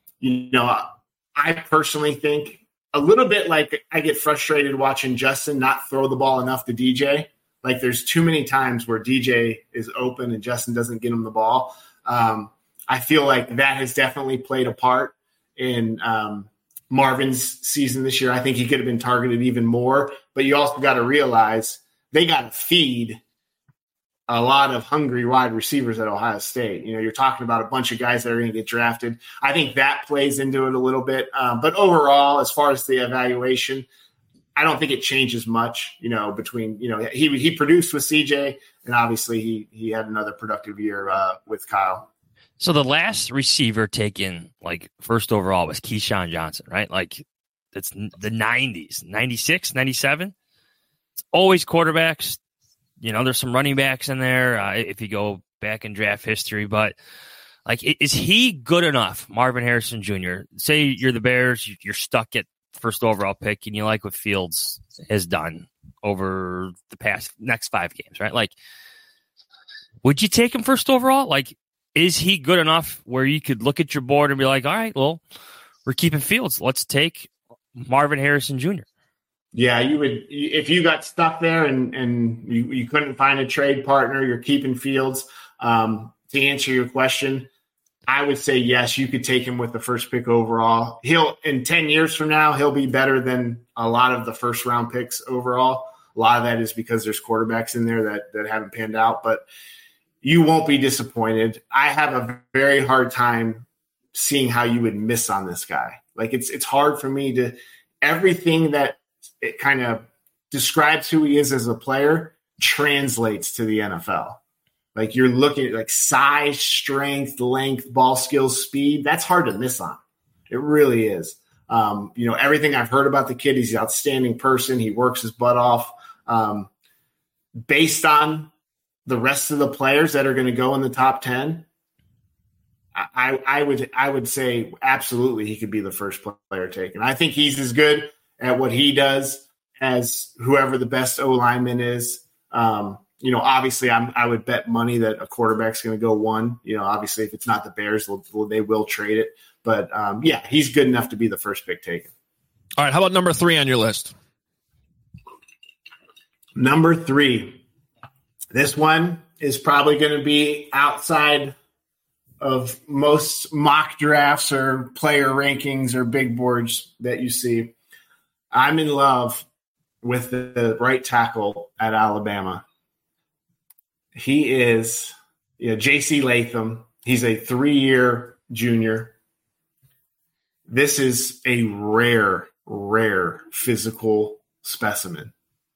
personally think a little bit like I get frustrated watching Justin not throw the ball enough to DJ. Like, there's too many times where DJ is open and Justin doesn't get him the ball. I feel like that has definitely played a part in Marvin's season this year. I think he could have been targeted even more, but you also got to realize they got to feed a lot of hungry wide receivers at Ohio State. You're talking about a bunch of guys that are going to get drafted. I think that plays into it a little bit. But overall, as far as the evaluation, I don't think it changes much, between, he produced with CJ, and obviously he had another productive year with Kyle. So the last receiver taken, like, first overall was Keyshawn Johnson, right? Like, it's the 90s, 96, 97. It's always quarterbacks. There's some running backs in there if you go back in draft history. But, like, is he good enough, Marvin Harrison Jr.? Say you're the Bears, you're stuck at first overall pick, and you like what Fields has done over the next 5 games, right? Like, would you take him first overall? Like, is he good enough where you could look at your board and be like, all right, well, we're keeping Fields. Let's take Marvin Harrison Jr. Yeah, you would, if you got stuck there and you couldn't find a trade partner, you're keeping Fields. To answer your question, I would say yes, you could take him with the first pick overall. In 10 years from now, he'll be better than a lot of the first round picks overall. A lot of that is because there's quarterbacks in there that haven't panned out, but you won't be disappointed. I have a very hard time seeing how you would miss on this guy. Like, it's hard for me to – everything that it kind of describes who he is as a player translates to the NFL. Like, you're looking at, like, size, strength, length, ball skills, speed. That's hard to miss on. It really is. Everything I've heard about the kid, he's an outstanding person. He works his butt off. Based on the rest of the players that are going to go in the top 10, I would say absolutely he could be the first player taken. I think he's as good at what he does as whoever the best O lineman is. Obviously I would bet money that a quarterback's going to go 1. Obviously if it's not the Bears, they will trade it. But he's good enough to be the first pick taken. All right. How about number 3 on your list? Number 3. This one is probably going to be outside of most mock drafts or player rankings or big boards that you see. I'm in love with the right tackle at Alabama. He is J.C. Latham. He's a 3-year junior. This is a rare physical specimen.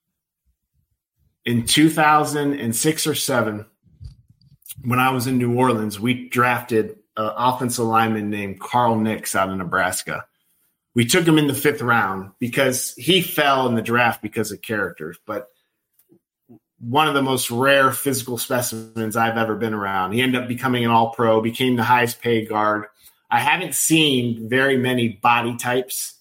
In 2006 or 7, when I was in New Orleans, we drafted an offensive lineman named Carl Nix out of Nebraska. We took him in the 5th round because he fell in the draft because of characters, but one of the most rare physical specimens I've ever been around. He ended up becoming an all-pro, became the highest paid guard. I haven't seen very many body types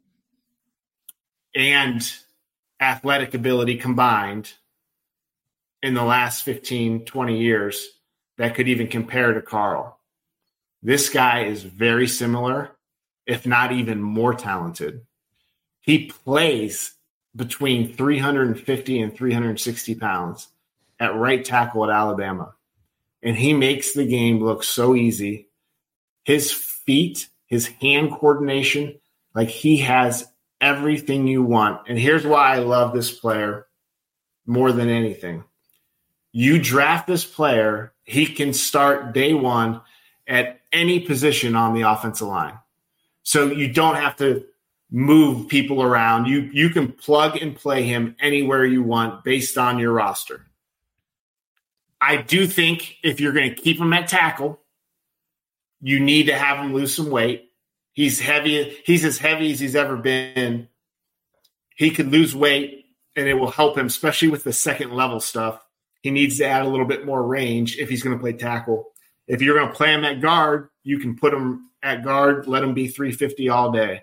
and athletic ability combined in the last 15, 20 years that could even compare to Carl. This guy is very similar, if not even more talented. He plays between 350 and 360 pounds at right tackle at Alabama. And he makes the game look so easy. His feet, his hand coordination, like he has everything you want. And here's why I love this player more than anything. You draft this player, he can start day one at any position on the offensive line. So you don't have to move people around. You can plug and play him anywhere you want based on your roster. I do think if you're going to keep him at tackle, you need to have him lose some weight. He's heavy. He's as heavy as he's ever been. He could lose weight, and it will help him, especially with the second level stuff. He needs to add a little bit more range if he's going to play tackle. If you're going to play him at guard, you can put him at guard, let him be 350 all day.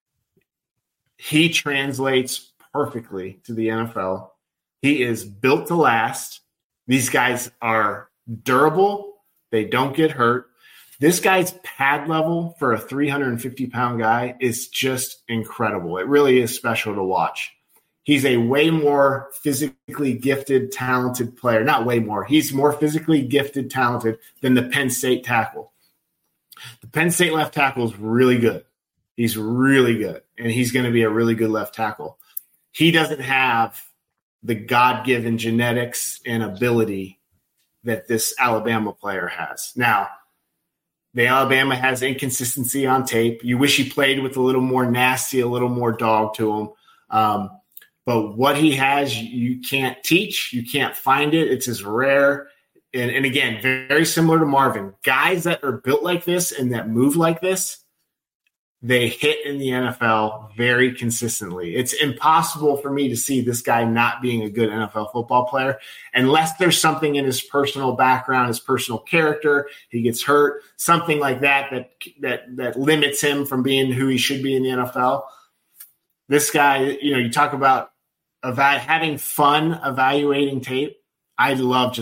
He translates perfectly to the NFL. He is built to last. These guys are durable. They don't get hurt. This guy's pad level for a 350-pound guy is just incredible. It really is special to watch. He's a way more physically gifted, talented player. Not way more. He's more physically gifted, talented than the Penn State tackle. The Penn State left tackle is really good. He's really good, and he's going to be a really good left tackle. He doesn't have the God-given genetics and ability that this Alabama player has. Now, the Alabama has inconsistency on tape. You wish he played with a little more nasty, a little more dog to him. But what he has, you can't teach. You can't find it. It's as rare. And again, very similar to Marvin. Guys that are built like this and that move like this, they hit in the NFL very consistently. It's impossible for me to see this guy not being a good NFL football player unless there's something in his personal background, his personal character, he gets hurt, something like that limits him from being who he should be in the NFL. This guy, you talk about having fun evaluating tape. I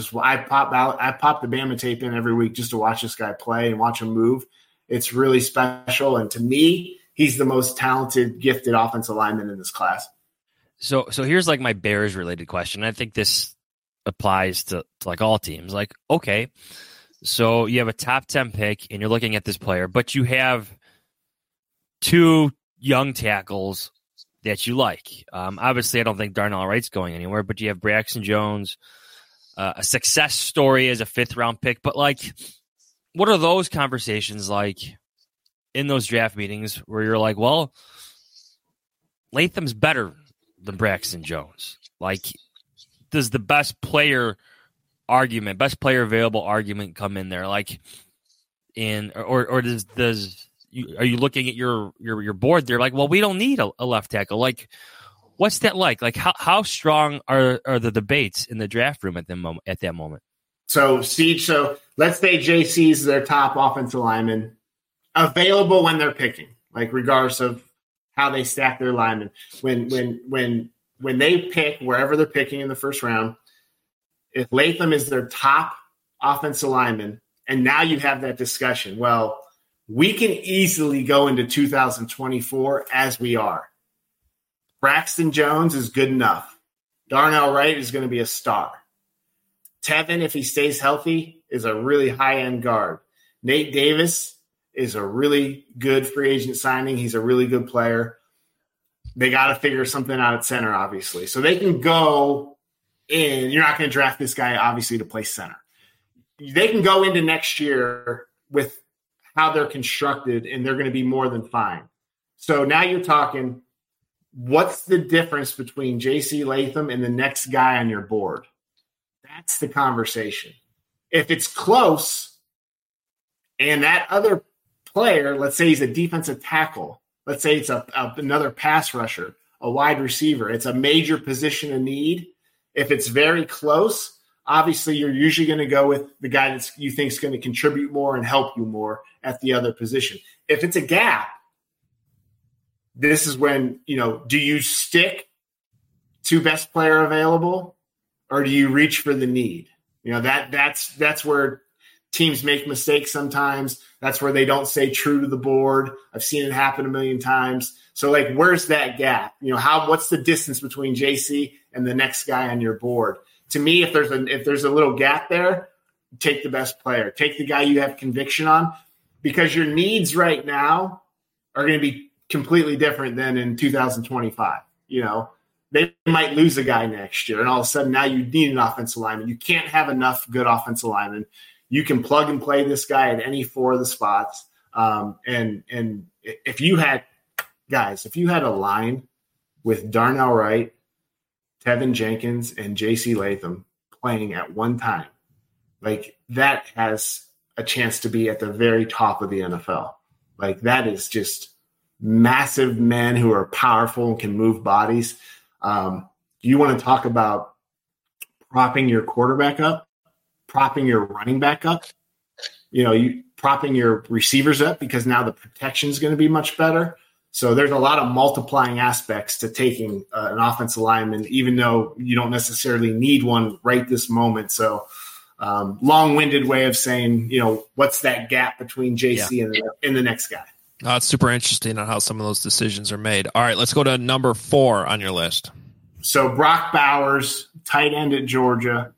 pop the Bama tape in every week just to watch this guy play and watch him move. It's really special. And to me, he's the most talented, gifted offensive lineman in this class. So here's like my Bears related question. I think this applies to like all teams. Like, okay, so you have a top 10 pick and you're looking at this player, but you have 2 young tackles that you like. Obviously, I don't think Darnell Wright's going anywhere, but you have Braxton Jones, a success story as a 5th round pick. But like, what are those conversations like in those draft meetings where you're like, well, Latham's better than Braxton Jones? Like, does the best player available argument come in there? Like, or does are you looking at your board? They're like, well, we don't need a left tackle. Like, what's that like? Like, how strong are the debates in the draft room at that moment? So, Siege, let's say JC's their top offensive lineman available when they're picking, like regardless of how they stack their linemen. When they pick wherever they're picking in the first round, if Latham is their top offensive lineman, and now you have that discussion, well, we can easily go into 2024 as we are. Braxton Jones is good enough. Darnell Wright is going to be a star. Tevin, if he stays healthy, is a really high-end guard. Nate Davis is a really good free agent signing. He's a really good player. They got to figure something out at center, obviously. So they can go in. You're not going to draft this guy, obviously, to play center. They can go into next year with how they're constructed, and they're going to be more than fine. So now you're talking, what's the difference between J.C. Latham and the next guy on your board? That's the conversation. If it's close and that other player, let's say he's a defensive tackle, let's say it's another pass rusher, a wide receiver, it's a major position of need. If it's very close, obviously you're usually going to go with the guy that you think is going to contribute more and help you more at the other position. If it's a gap, this is when, do you stick to best player available or do you reach for the need? That's where teams make mistakes sometimes. That's where they don't stay true to the board. I've seen it happen a million times. So, where's that gap? What's the distance between JC and the next guy on your board? To me, if there's a little gap there, take the best player. Take the guy you have conviction on, because your needs right now are going to be completely different than in 2025. They might lose a guy next year, and all of a sudden now you need an offensive lineman. You can't have enough good offensive linemen. You can plug and play this guy at any four of the spots. And if you had a line with Darnell Wright, Tevin Jenkins, and J.C. Latham playing at one time, that has a chance to be at the very top of the NFL. That is just massive men who are powerful and can move bodies. You want to talk about propping your quarterback up, propping your running back up, you propping your receivers up, because now the protection is going to be much better. So there's a lot of multiplying aspects to taking an offensive lineman, even though you don't necessarily need one right this moment. So long-winded way of saying, what's that gap between JC and the next guy? It's super interesting on how some of those decisions are made. All right, let's go to number 4 on your list. So Brock Bowers, tight end at Georgia.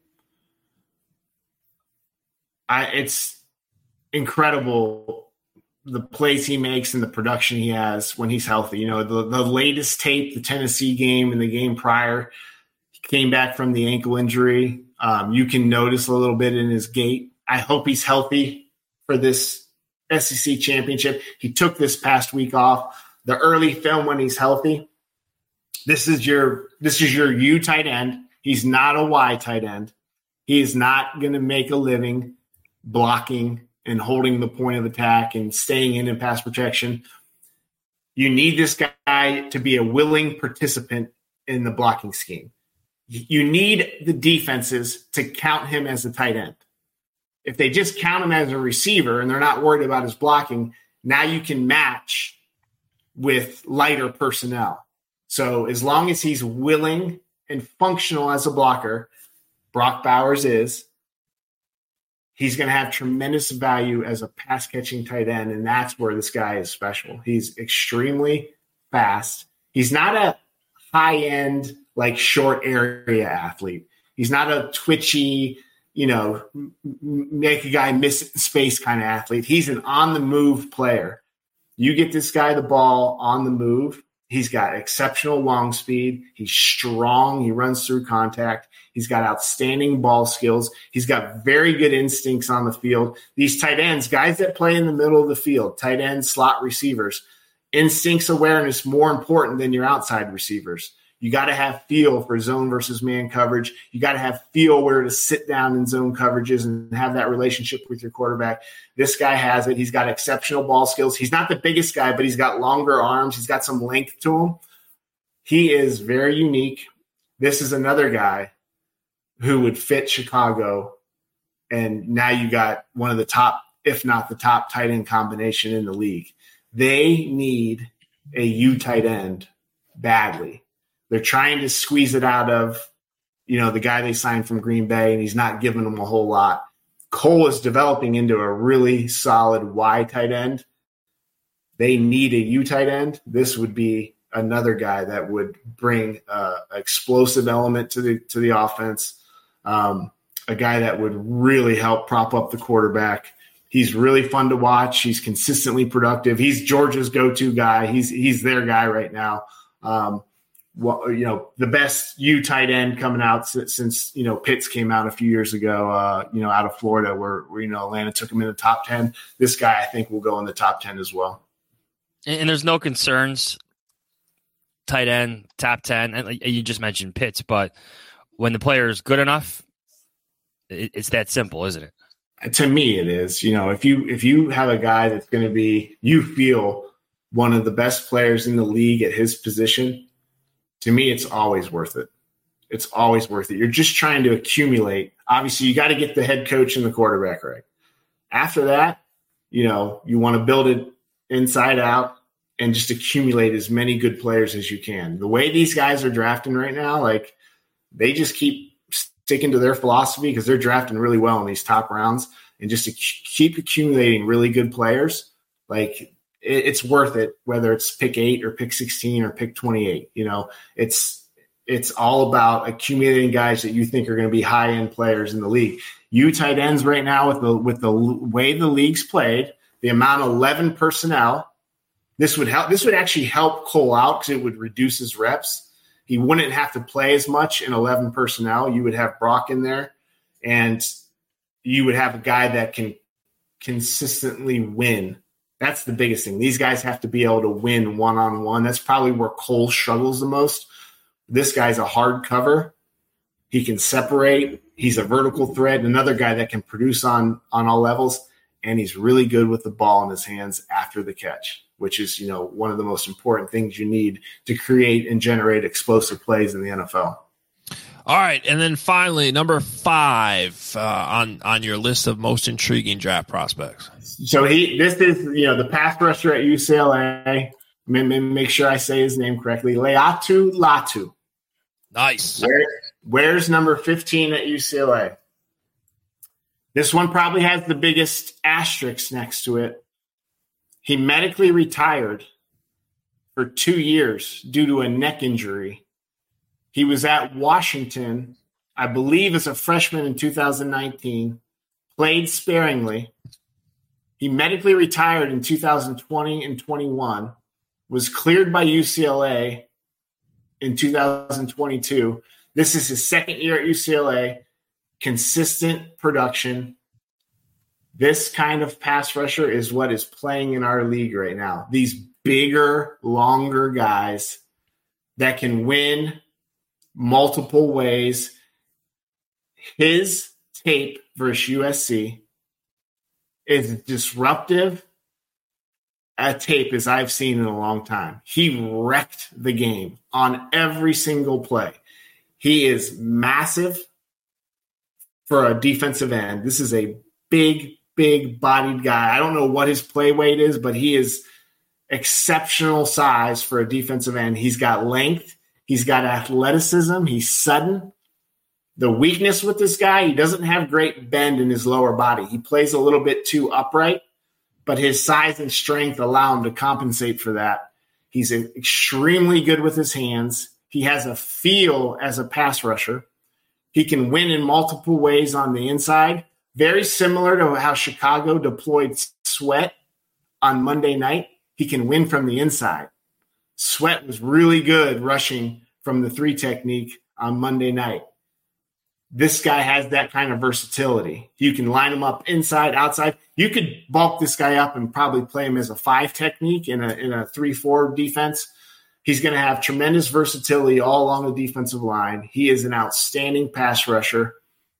It's incredible the plays he makes and the production he has when he's healthy. The latest tape, the Tennessee game and the game prior, he came back from the ankle injury. You can notice a little bit in his gait. I hope he's healthy for this SEC championship. He took this past week off. The early film when he's healthy. This is your U tight end. He's not a Y tight end. He is not going to make a living blocking and holding the point of attack and staying in pass protection. You need this guy to be a willing participant in the blocking scheme. You need the defenses to count him as a tight end. If they just count him as a receiver and they're not worried about his blocking, now you can match with lighter personnel. So as long as he's willing and functional as a blocker, Brock Bowers is, he's going to have tremendous value as a pass-catching tight end, and that's where this guy is special. He's extremely fast. He's not a high-end, short area athlete. He's not a twitchy, make a guy miss space kind of athlete. He's an on-the-move player. You get this guy the ball on the move, he's got exceptional long speed. He's strong. He runs through contact. He's got outstanding ball skills. He's got very good instincts on the field. These tight ends, guys that play in the middle of the field, tight ends, slot receivers, instincts awareness more important than your outside receivers. You got to have feel for zone versus man coverage. You got to have feel where to sit down in zone coverages and have that relationship with your quarterback. This guy has it. He's got exceptional ball skills. He's not the biggest guy, but he's got longer arms. He's got some length to him. He is very unique. This is another guy who would fit Chicago. And now you got one of the top, if not the top tight end combination in the league. They need a U tight end badly. They're trying to squeeze it out of, the guy they signed from Green Bay, and he's not giving them a whole lot. Cole is developing into a really solid Y tight end. They need a U tight end. This would be another guy that would bring an explosive element to the offense, a guy that would really help prop up the quarterback. He's really fun to watch. He's consistently productive. He's Georgia's go-to guy. He's their guy right now. The best U tight end coming out since Pitts came out a few years ago, out of Florida, where Atlanta took him in the top 10. This guy, I think, will go in the top 10 as well. And there's no concerns. Tight end, top 10. And you just mentioned Pitts, but when the player is good enough, it's that simple, isn't it? To me, it is. If you have a guy that's going to be, you feel one of the best players in the league at his position, to me, it's always worth it. It's always worth it. You're just trying to accumulate. Obviously, you got to get the head coach and the quarterback right. After that, you want to build it inside out and just accumulate as many good players as you can. The way these guys are drafting right now, they just keep sticking to their philosophy because they're drafting really well in these top rounds, and just to keep accumulating really good players, it's worth it, whether it's pick 8 or pick 16 or pick 28. It's all about accumulating guys that you think are going to be high-end players in the league. You tight ends right now with the way the league's played, the amount of 11 personnel, this would help. This would actually help Cole out because it would reduce his reps. He wouldn't have to play as much in 11 personnel. You would have Brock in there, and you would have a guy that can consistently win. That's the biggest thing. These guys have to be able to win one-on-one. That's probably where Cole struggles the most. This guy's a hard cover. He can separate. He's a vertical threat. Another guy that can produce on all levels, and he's really good with the ball in his hands after the catch, which is, one of the most important things you need to create and generate explosive plays in the NFL. All right, and then finally, number 5 on your list of most intriguing draft prospects. So this is the pass rusher at UCLA. Make sure I say his name correctly. Laiatu Latu. Nice. Where's number 15 at UCLA? This one probably has the biggest asterisk next to it. He medically retired for 2 years due to a neck injury. He was at Washington, I believe, as a freshman in 2019, played sparingly. He medically retired in 2020 and 21, was cleared by UCLA in 2022. This is his second year at UCLA, consistent production. This kind of pass rusher is what is playing in our league right now. These bigger, longer guys that can win multiple ways. His tape versus USC is disruptive a tape as I've seen in a long time. He wrecked the game on every single play. He is massive for a defensive end. This is a big bodied guy. I don't know what his play weight is, but he is exceptional size for a defensive end. He's got length. He's got athleticism. He's sudden. The weakness with this guy, he doesn't have great bend in his lower body. He plays a little bit too upright, but his size and strength allow him to compensate for that. He's extremely good with his hands. He has a feel as a pass rusher. He can win in multiple ways on the inside, very similar to how Chicago deployed Sweat on Monday night. He can win from the inside. Sweat was really good rushing from the 3 technique on Monday night. This guy has that kind of versatility. You can line him up inside, outside. You could bulk this guy up and probably play him as a 5 technique in a 3-4 defense. He's going to have tremendous versatility all along the defensive line. He is an outstanding pass rusher.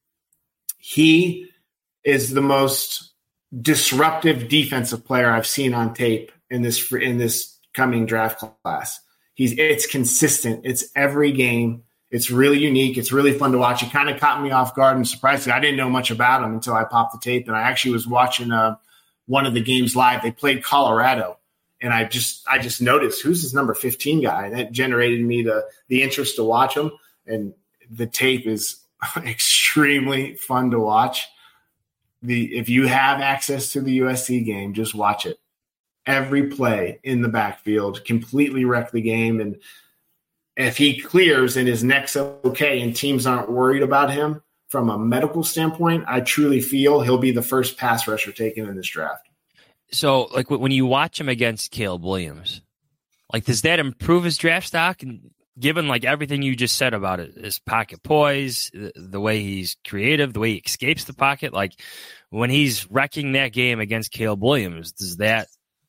He is the most disruptive defensive player I've seen on tape in this coming draft class. It's consistent. It's every game. It's really unique. It's really fun to watch. It kind of caught me off guard and surprised me. I didn't know much about him until I popped the tape, and I actually was watching one of the games live. They played Colorado, and I just noticed, who's this number 15 guy? And that generated me the interest to watch him, and the tape is extremely fun to watch. If you have access to the USC game, just watch it. Every play in the backfield, completely wreck the game. And if he clears and his neck's okay and teams aren't worried about him from a medical standpoint, I truly feel he'll be the first pass rusher taken in this draft. So, like, when you watch him against Caleb Williams, like, does that improve his draft stock? And given, like, everything you just said about it, his pocket poise, the way he's creative, the way he escapes the pocket, like, when he's wrecking that game against Caleb Williams, does that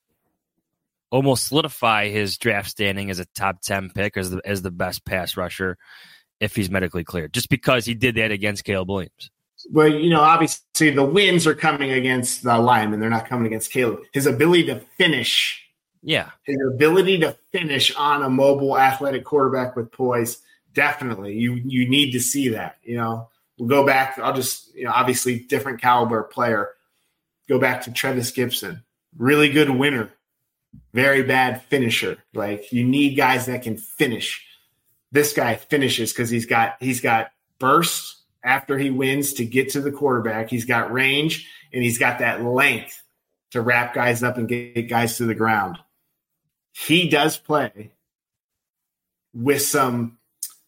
almost solidify his draft standing as a top 10 pick as the best pass rusher if he's medically cleared, just because he did that against Caleb Williams? Well, obviously the wins are coming against the linemen. They're not coming against Caleb. His ability to finish. Yeah. His ability to finish on a mobile athletic quarterback with poise. Definitely. You need to see that. We'll go back. I'll just, obviously different caliber player. Go back to Trevis Gibson. Really good winner. Very bad finisher. Like, you need guys that can finish. This guy finishes because he's got burst after he wins to get to the quarterback. He's got range, and he's got that length to wrap guys up and get guys to the ground. He does play with some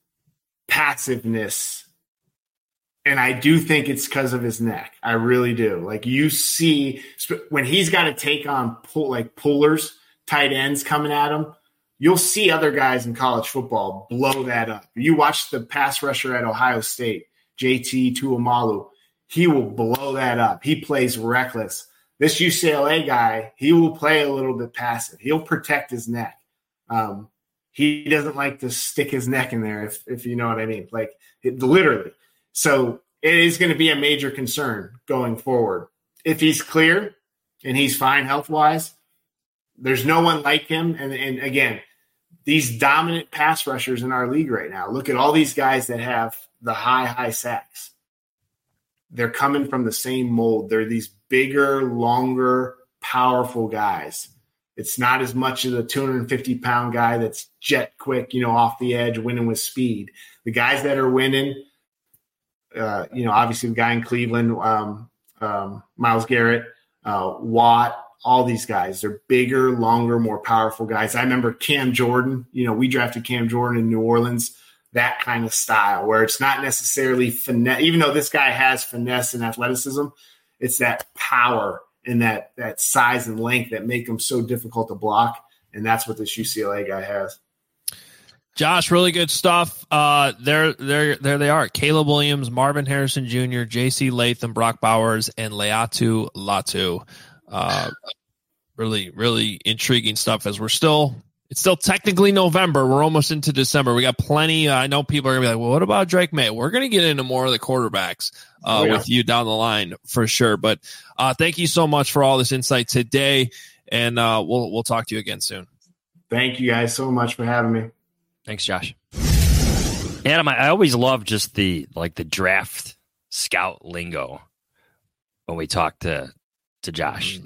passiveness, and I do think it's because of his neck. I really do. Like, you see when he's got to take on pullers, tight ends coming at him, you'll see other guys in college football blow that up. You watch the pass rusher at Ohio State, JT Tuimalu, he will blow that up. He plays reckless. This UCLA guy, he will play a little bit passive. He'll protect his neck. He doesn't like to stick his neck in there, if you know what I mean. Like, literally. So it is going to be a major concern going forward. If he's clear and he's fine health-wise, there's no one like him. And again, these dominant pass rushers in our league right now, look at all these guys that have the high sacks. They're coming from the same mold. They're these bigger, longer, powerful guys. It's not as much of the 250-pound guy that's jet quick, off the edge, winning with speed. The guys that are winning, obviously the guy in Cleveland, Myles Garrett, Watt, all these guys, they're bigger, longer, more powerful guys. I remember Cam Jordan. We drafted Cam Jordan in New Orleans, that kind of style where it's not necessarily finesse. Even though this guy has finesse and athleticism, it's that power and that size and length that make him so difficult to block. And that's what this UCLA guy has. Josh, really good stuff. There they are. Caleb Williams, Marvin Harrison Jr., J.C. Latham, Brock Bowers, and Laiatu Latu. Really, really intriguing stuff as it's still technically November. We're almost into December. We got plenty. I know people are going to be like, well, what about Drake May? We're going to get into more of the quarterbacks with you down the line for sure. But thank you so much for all this insight today. And we'll talk to you again soon. Thank you guys so much for having me. Thanks, Josh. Adam, I always love just the draft scout lingo when we talk to Josh.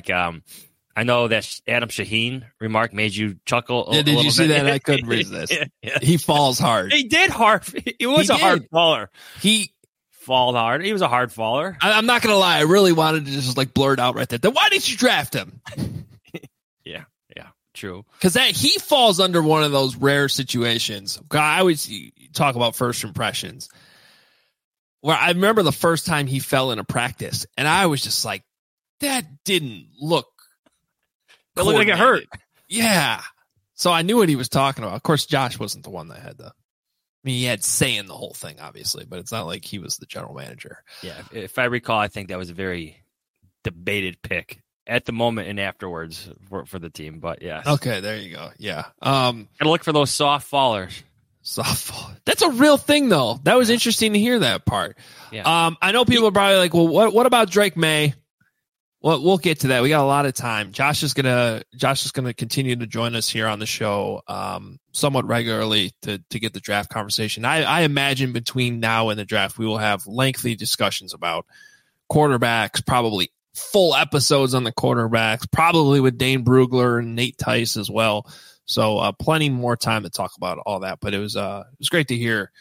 I know that Adam Shaheen remark made you chuckle a little bit. Did you see that? I couldn't resist. Yeah. He falls hard. He did hard. He was a hard faller. He falled hard. He was a hard faller. I'm not going to lie. I really wanted to just blurt out right there. Then why did you draft him? Yeah, true. Because he falls under one of those rare situations. I always talk about first impressions. Where I remember the first time he fell in a practice, and I was just like, that didn't look. It looked like it hurt. Yeah. So I knew what he was talking about. Of course, Josh wasn't the one that had he had say in the whole thing, obviously, but it's not like he was the general manager. Yeah. If I recall, I think that was a very debated pick at the moment and afterwards for the team. But yes. Okay, there you go. Yeah. Gotta look for those soft fallers. Softball. That's a real thing, though. That was interesting to hear that part. Yeah. I know people are probably like, well, what about Drake May? Well, we'll get to that. We got a lot of time. Josh is gonna continue to join us here on the show somewhat regularly to get the draft conversation. I imagine between now and the draft, we will have lengthy discussions about quarterbacks, probably full episodes on the quarterbacks, probably with Dane Brugler and Nate Tice as well. So plenty more time to talk about all that. But it was great to hear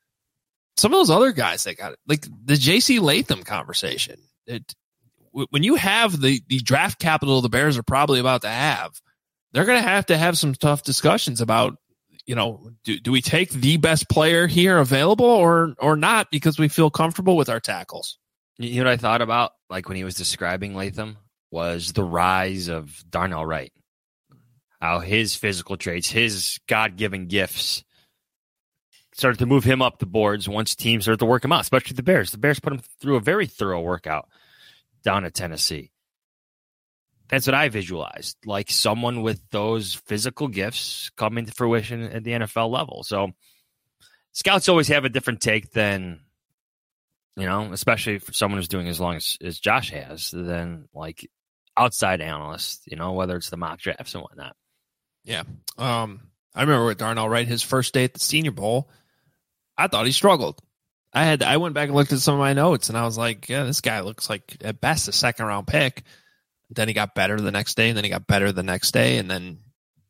some of those other guys that got it, like the J.C. Latham conversation. When you have the draft capital the Bears are probably about to have, they're going to have some tough discussions about, do we take the best player here available or not because we feel comfortable with our tackles? You know what I thought about, like when he was describing Latham, was the rise of Darnell Wright. How his physical traits, his God-given gifts started to move him up the boards once teams started to work him out, especially the Bears. The Bears put him through a very thorough workout down at Tennessee. That's what I visualized, like someone with those physical gifts coming to fruition at the NFL level. So scouts always have a different take than, especially for someone who's doing as long as Josh has, than like outside analysts, whether it's the mock drafts and whatnot. Yeah. I remember with Darnell Wright, his first day at the Senior Bowl, I thought he struggled. I went back and looked at some of my notes, and I was like, yeah, this guy looks like at best a second-round pick. Then he got better the next day, and then he got better the next day, and then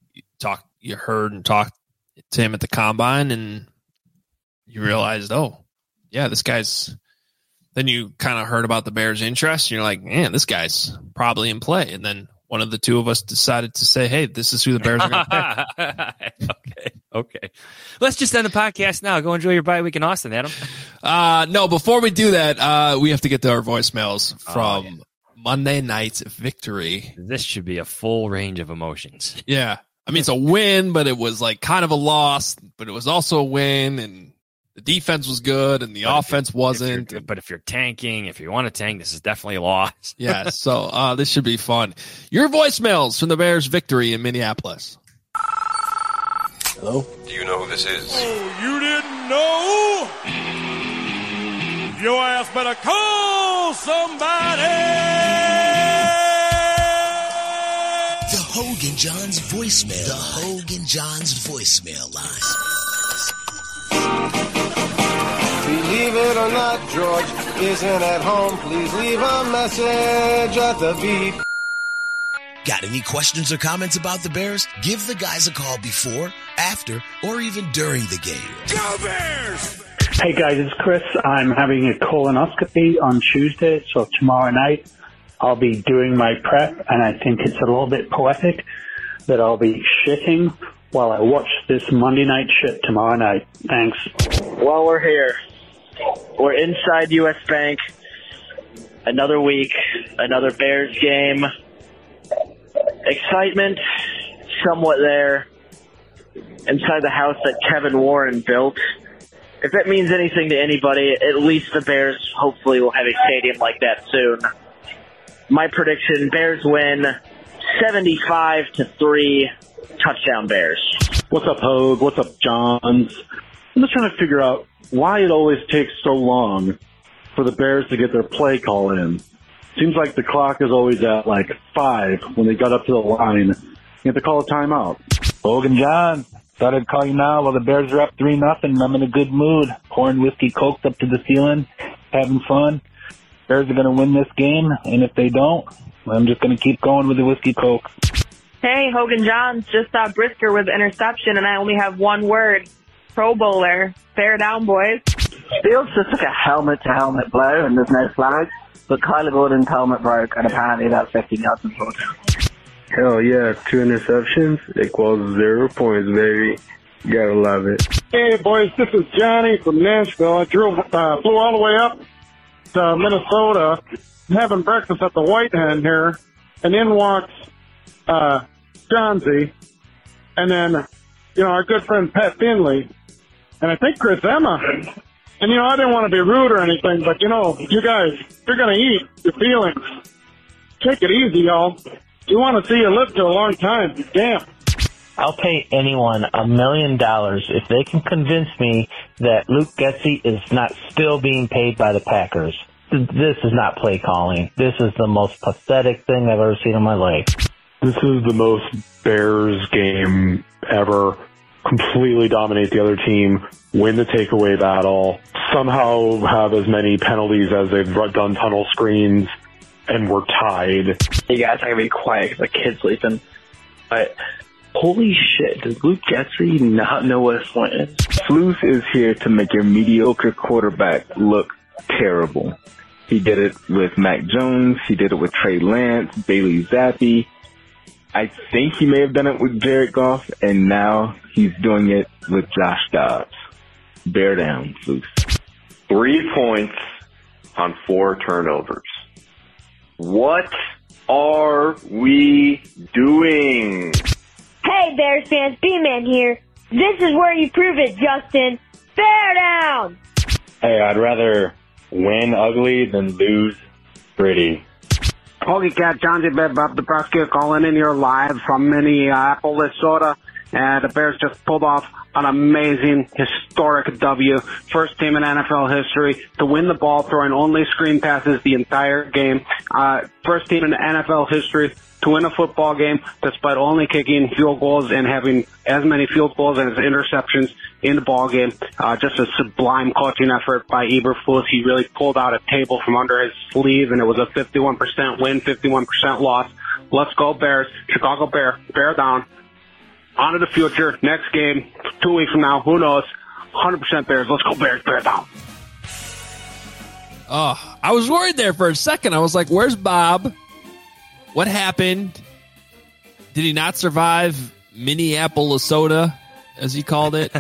you heard and talked to him at the Combine, and you realized, oh, yeah, this guy's – then you kind of heard about the Bears' interest, and you're like, man, this guy's probably in play. And then one of the two of us decided to say, hey, this is who the Bears are going to pick. Okay. Let's just end the podcast now. Go enjoy your bye week in Austin, Adam. No, before we do that, we have to get to our voicemails from Monday night's victory. This should be a full range of emotions. Yeah. I mean, it's a win, but it was like kind of a loss, but it was also a win, and the defense was good and the offense wasn't. But if you're tanking, if you want to tank, this is definitely a loss. Yeah, so this should be fun. Your voicemails from the Bears' victory in Minneapolis. Hello? Do you know who this is? Oh, you didn't know? Your ass better call somebody! The Hogan Johns voicemail. The Hogan Johns voicemail line. Believe it or not, George isn't at home. Please leave a message at the beep. Got any questions or comments about the Bears? Give the guys a call before, after, or even during the game. Go Bears! Hey guys, it's Chris. I'm having a colonoscopy on Tuesday, so tomorrow night I'll be doing my prep, and I think it's a little bit poetic that I'll be shitting while I watch this Monday night shit tomorrow night. Thanks. Well, we're here. We're inside U.S. Bank. Another week, another Bears game. Excitement, somewhat there. Inside the house that Kevin Warren built. If that means anything to anybody, at least the Bears hopefully will have a stadium like that soon. My prediction, Bears win 75-3, touchdown Bears. What's up, Hogue? What's up, Johns? I'm just trying to figure out why it always takes so long for the Bears to get their play call in. Seems like the clock is always at like 5 when they got up to the line. You have to call a timeout. Hogan John, thought I'd call you now while the Bears are up 3-0 and I'm in a good mood. Pouring whiskey cokes up to the ceiling, having fun. Bears are going to win this game, and if they don't, I'm just going to keep going with the whiskey coke. Hey, Hogan Johns, just saw Brisker with interception, and I only have one word. Pro Bowler. Bear down, boys. Feels just like a helmet-to-helmet blow, and there's no flag. But Kyler Gordon's helmet broke, and apparently that's 15 yards in total. Hell yeah, 2 interceptions equals 0 points, baby. Gotta love it. Hey, boys, this is Johnny from Nashville. I flew all the way up to Minnesota, having breakfast at the White Hen here, and in walks Johnsy, and then, our good friend Pat Finley, and I think Chris Emma. And, I didn't want to be rude or anything, but, you guys, you're going to eat your feelings. Take it easy, y'all. We want to see you live to a long time. Damn. I'll pay anyone $1 million if they can convince me that Luke Getsy is not still being paid by the Packers. This is not play calling. This is the most pathetic thing I've ever seen in my life. This is the most Bears game ever. Completely dominate the other team, win the takeaway battle, somehow have as many penalties as they've done tunnel screens, and we're tied. Hey guys, I gotta be quiet because the kid's sleeping. But holy shit, does Luke Getsy not know what a slant is? Flus is here to make your mediocre quarterback look terrible. He did it with Mac Jones. He did it with Trey Lance, Bailey Zappi. I think he may have done it with Jared Goff, and now he's doing it with Josh Dobbs. Bear down, Flus. 3 points on 4 turnovers. What are we doing? Hey, Bears fans, B-Man here. This is where you prove it, Justin. Bear down! Hey, I'd rather win ugly than lose pretty. Holy cat, John J. Bob the prosecutor calling in here live from Minneapolis, Minnesota. And the Bears just pulled off an amazing, historic W. First team in NFL history to win the ball throwing only screen passes the entire game. First team in NFL history to win a football game despite only kicking field goals and having as many field goals as interceptions in the ball game. Just a sublime coaching effort by Eberflus. He really pulled out a table from under his sleeve, and it was a 51% win, 51% loss. Let's go Bears. Chicago Bear down. On to the future. Next game, 2 weeks from now, who knows? 100% Bears. Let's go Bears. Bear down. Oh, I was worried there for a second. I was like, where's Bob? What happened? Did he not survive Minneapolis, as he called it?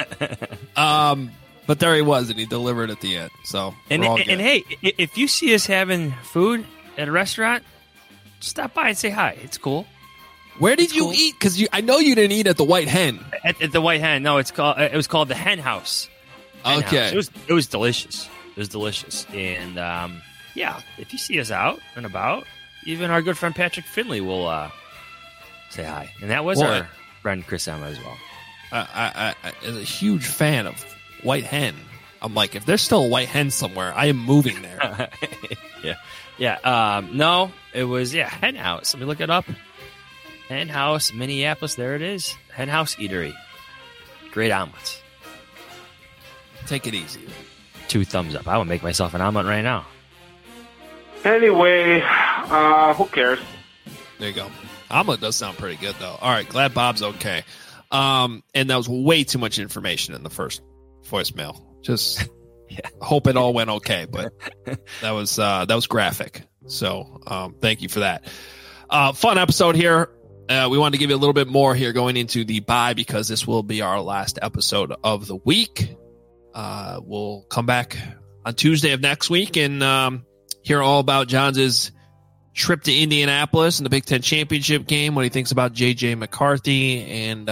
But there he was, and he delivered at the end. So, and hey, if you see us having food at a restaurant, stop by and say hi. It's cool. Where did you eat? Because I know you didn't eat at the White Hen. At the White Hen, no, it was called the Hen House. Okay, House. It was delicious. It was delicious, and yeah, if you see us out and about, even our good friend Patrick Finley will say hi, and that was our friend Chris Emma as well. I am a huge fan of White Hen. I'm like, if there's still a White Hen somewhere, I am moving there. yeah. No, it was Hen House. Let me look it up. Hen House, Minneapolis. There it is. Hen House Eatery. Great omelets. Take it easy. 2 thumbs up. I would make myself an omelet right now. Anyway, who cares? There you go. Omelet does sound pretty good, though. All right, glad Bob's okay. And that was way too much information in the first voicemail. Just hope it all went okay, but that was graphic. So thank you for that. Fun episode here. We wanted to give you a little bit more here going into the bye because this will be our last episode of the week. We'll come back on Tuesday of next week and hear all about Johns' trip to Indianapolis and the Big Ten Championship game, what he thinks about J.J. McCarthy, and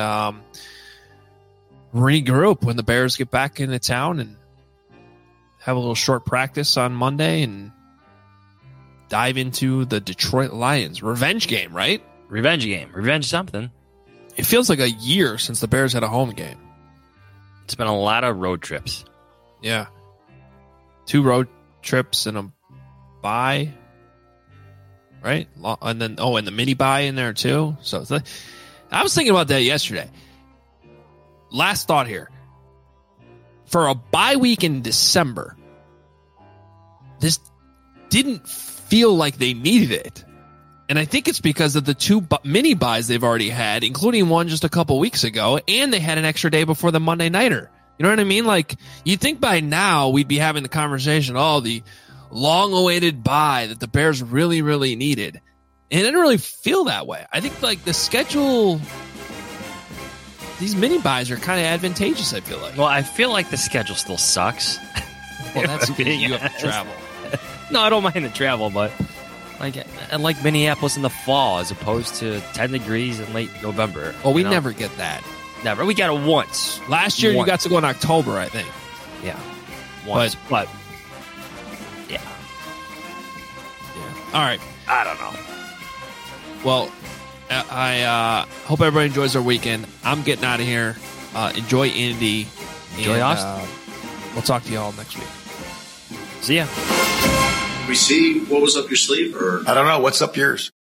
regroup when the Bears get back into town and have a little short practice on Monday and dive into the Detroit Lions. Revenge game, right? Revenge game. Revenge something. It feels like a year since the Bears had a home game. It's been a lot of road trips. Yeah. 2 road trips and a bye. Right? And then, and the mini bye in there too. So it's like, I was thinking about that yesterday. Last thought here. For a bye week in December, this didn't feel like they needed it. And I think it's because of the 2 mini buys they've already had, including one just a couple weeks ago, and they had an extra day before the Monday Nighter. You know what I mean? Like, you'd think by now we'd be having the conversation, the long-awaited bye that the Bears really, really needed. And it didn't really feel that way. I think, like, the schedule, these mini buys are kind of advantageous, I feel like. Well, I feel like the schedule still sucks. Well, that's because you have to travel. No, I don't mind the travel, but I like Minneapolis in the fall as opposed to 10 degrees in late November. Oh, we never get that. Never. We got it once. Last year you got to go in October, I think. Yeah. Once. But yeah. All right. I don't know. Well, I hope everybody enjoys their weekend. I'm getting out of here. Enjoy Indy. Enjoy Austin. We'll talk to you all next week. See ya. We see what was up your sleeve, or I don't know. What's up yours?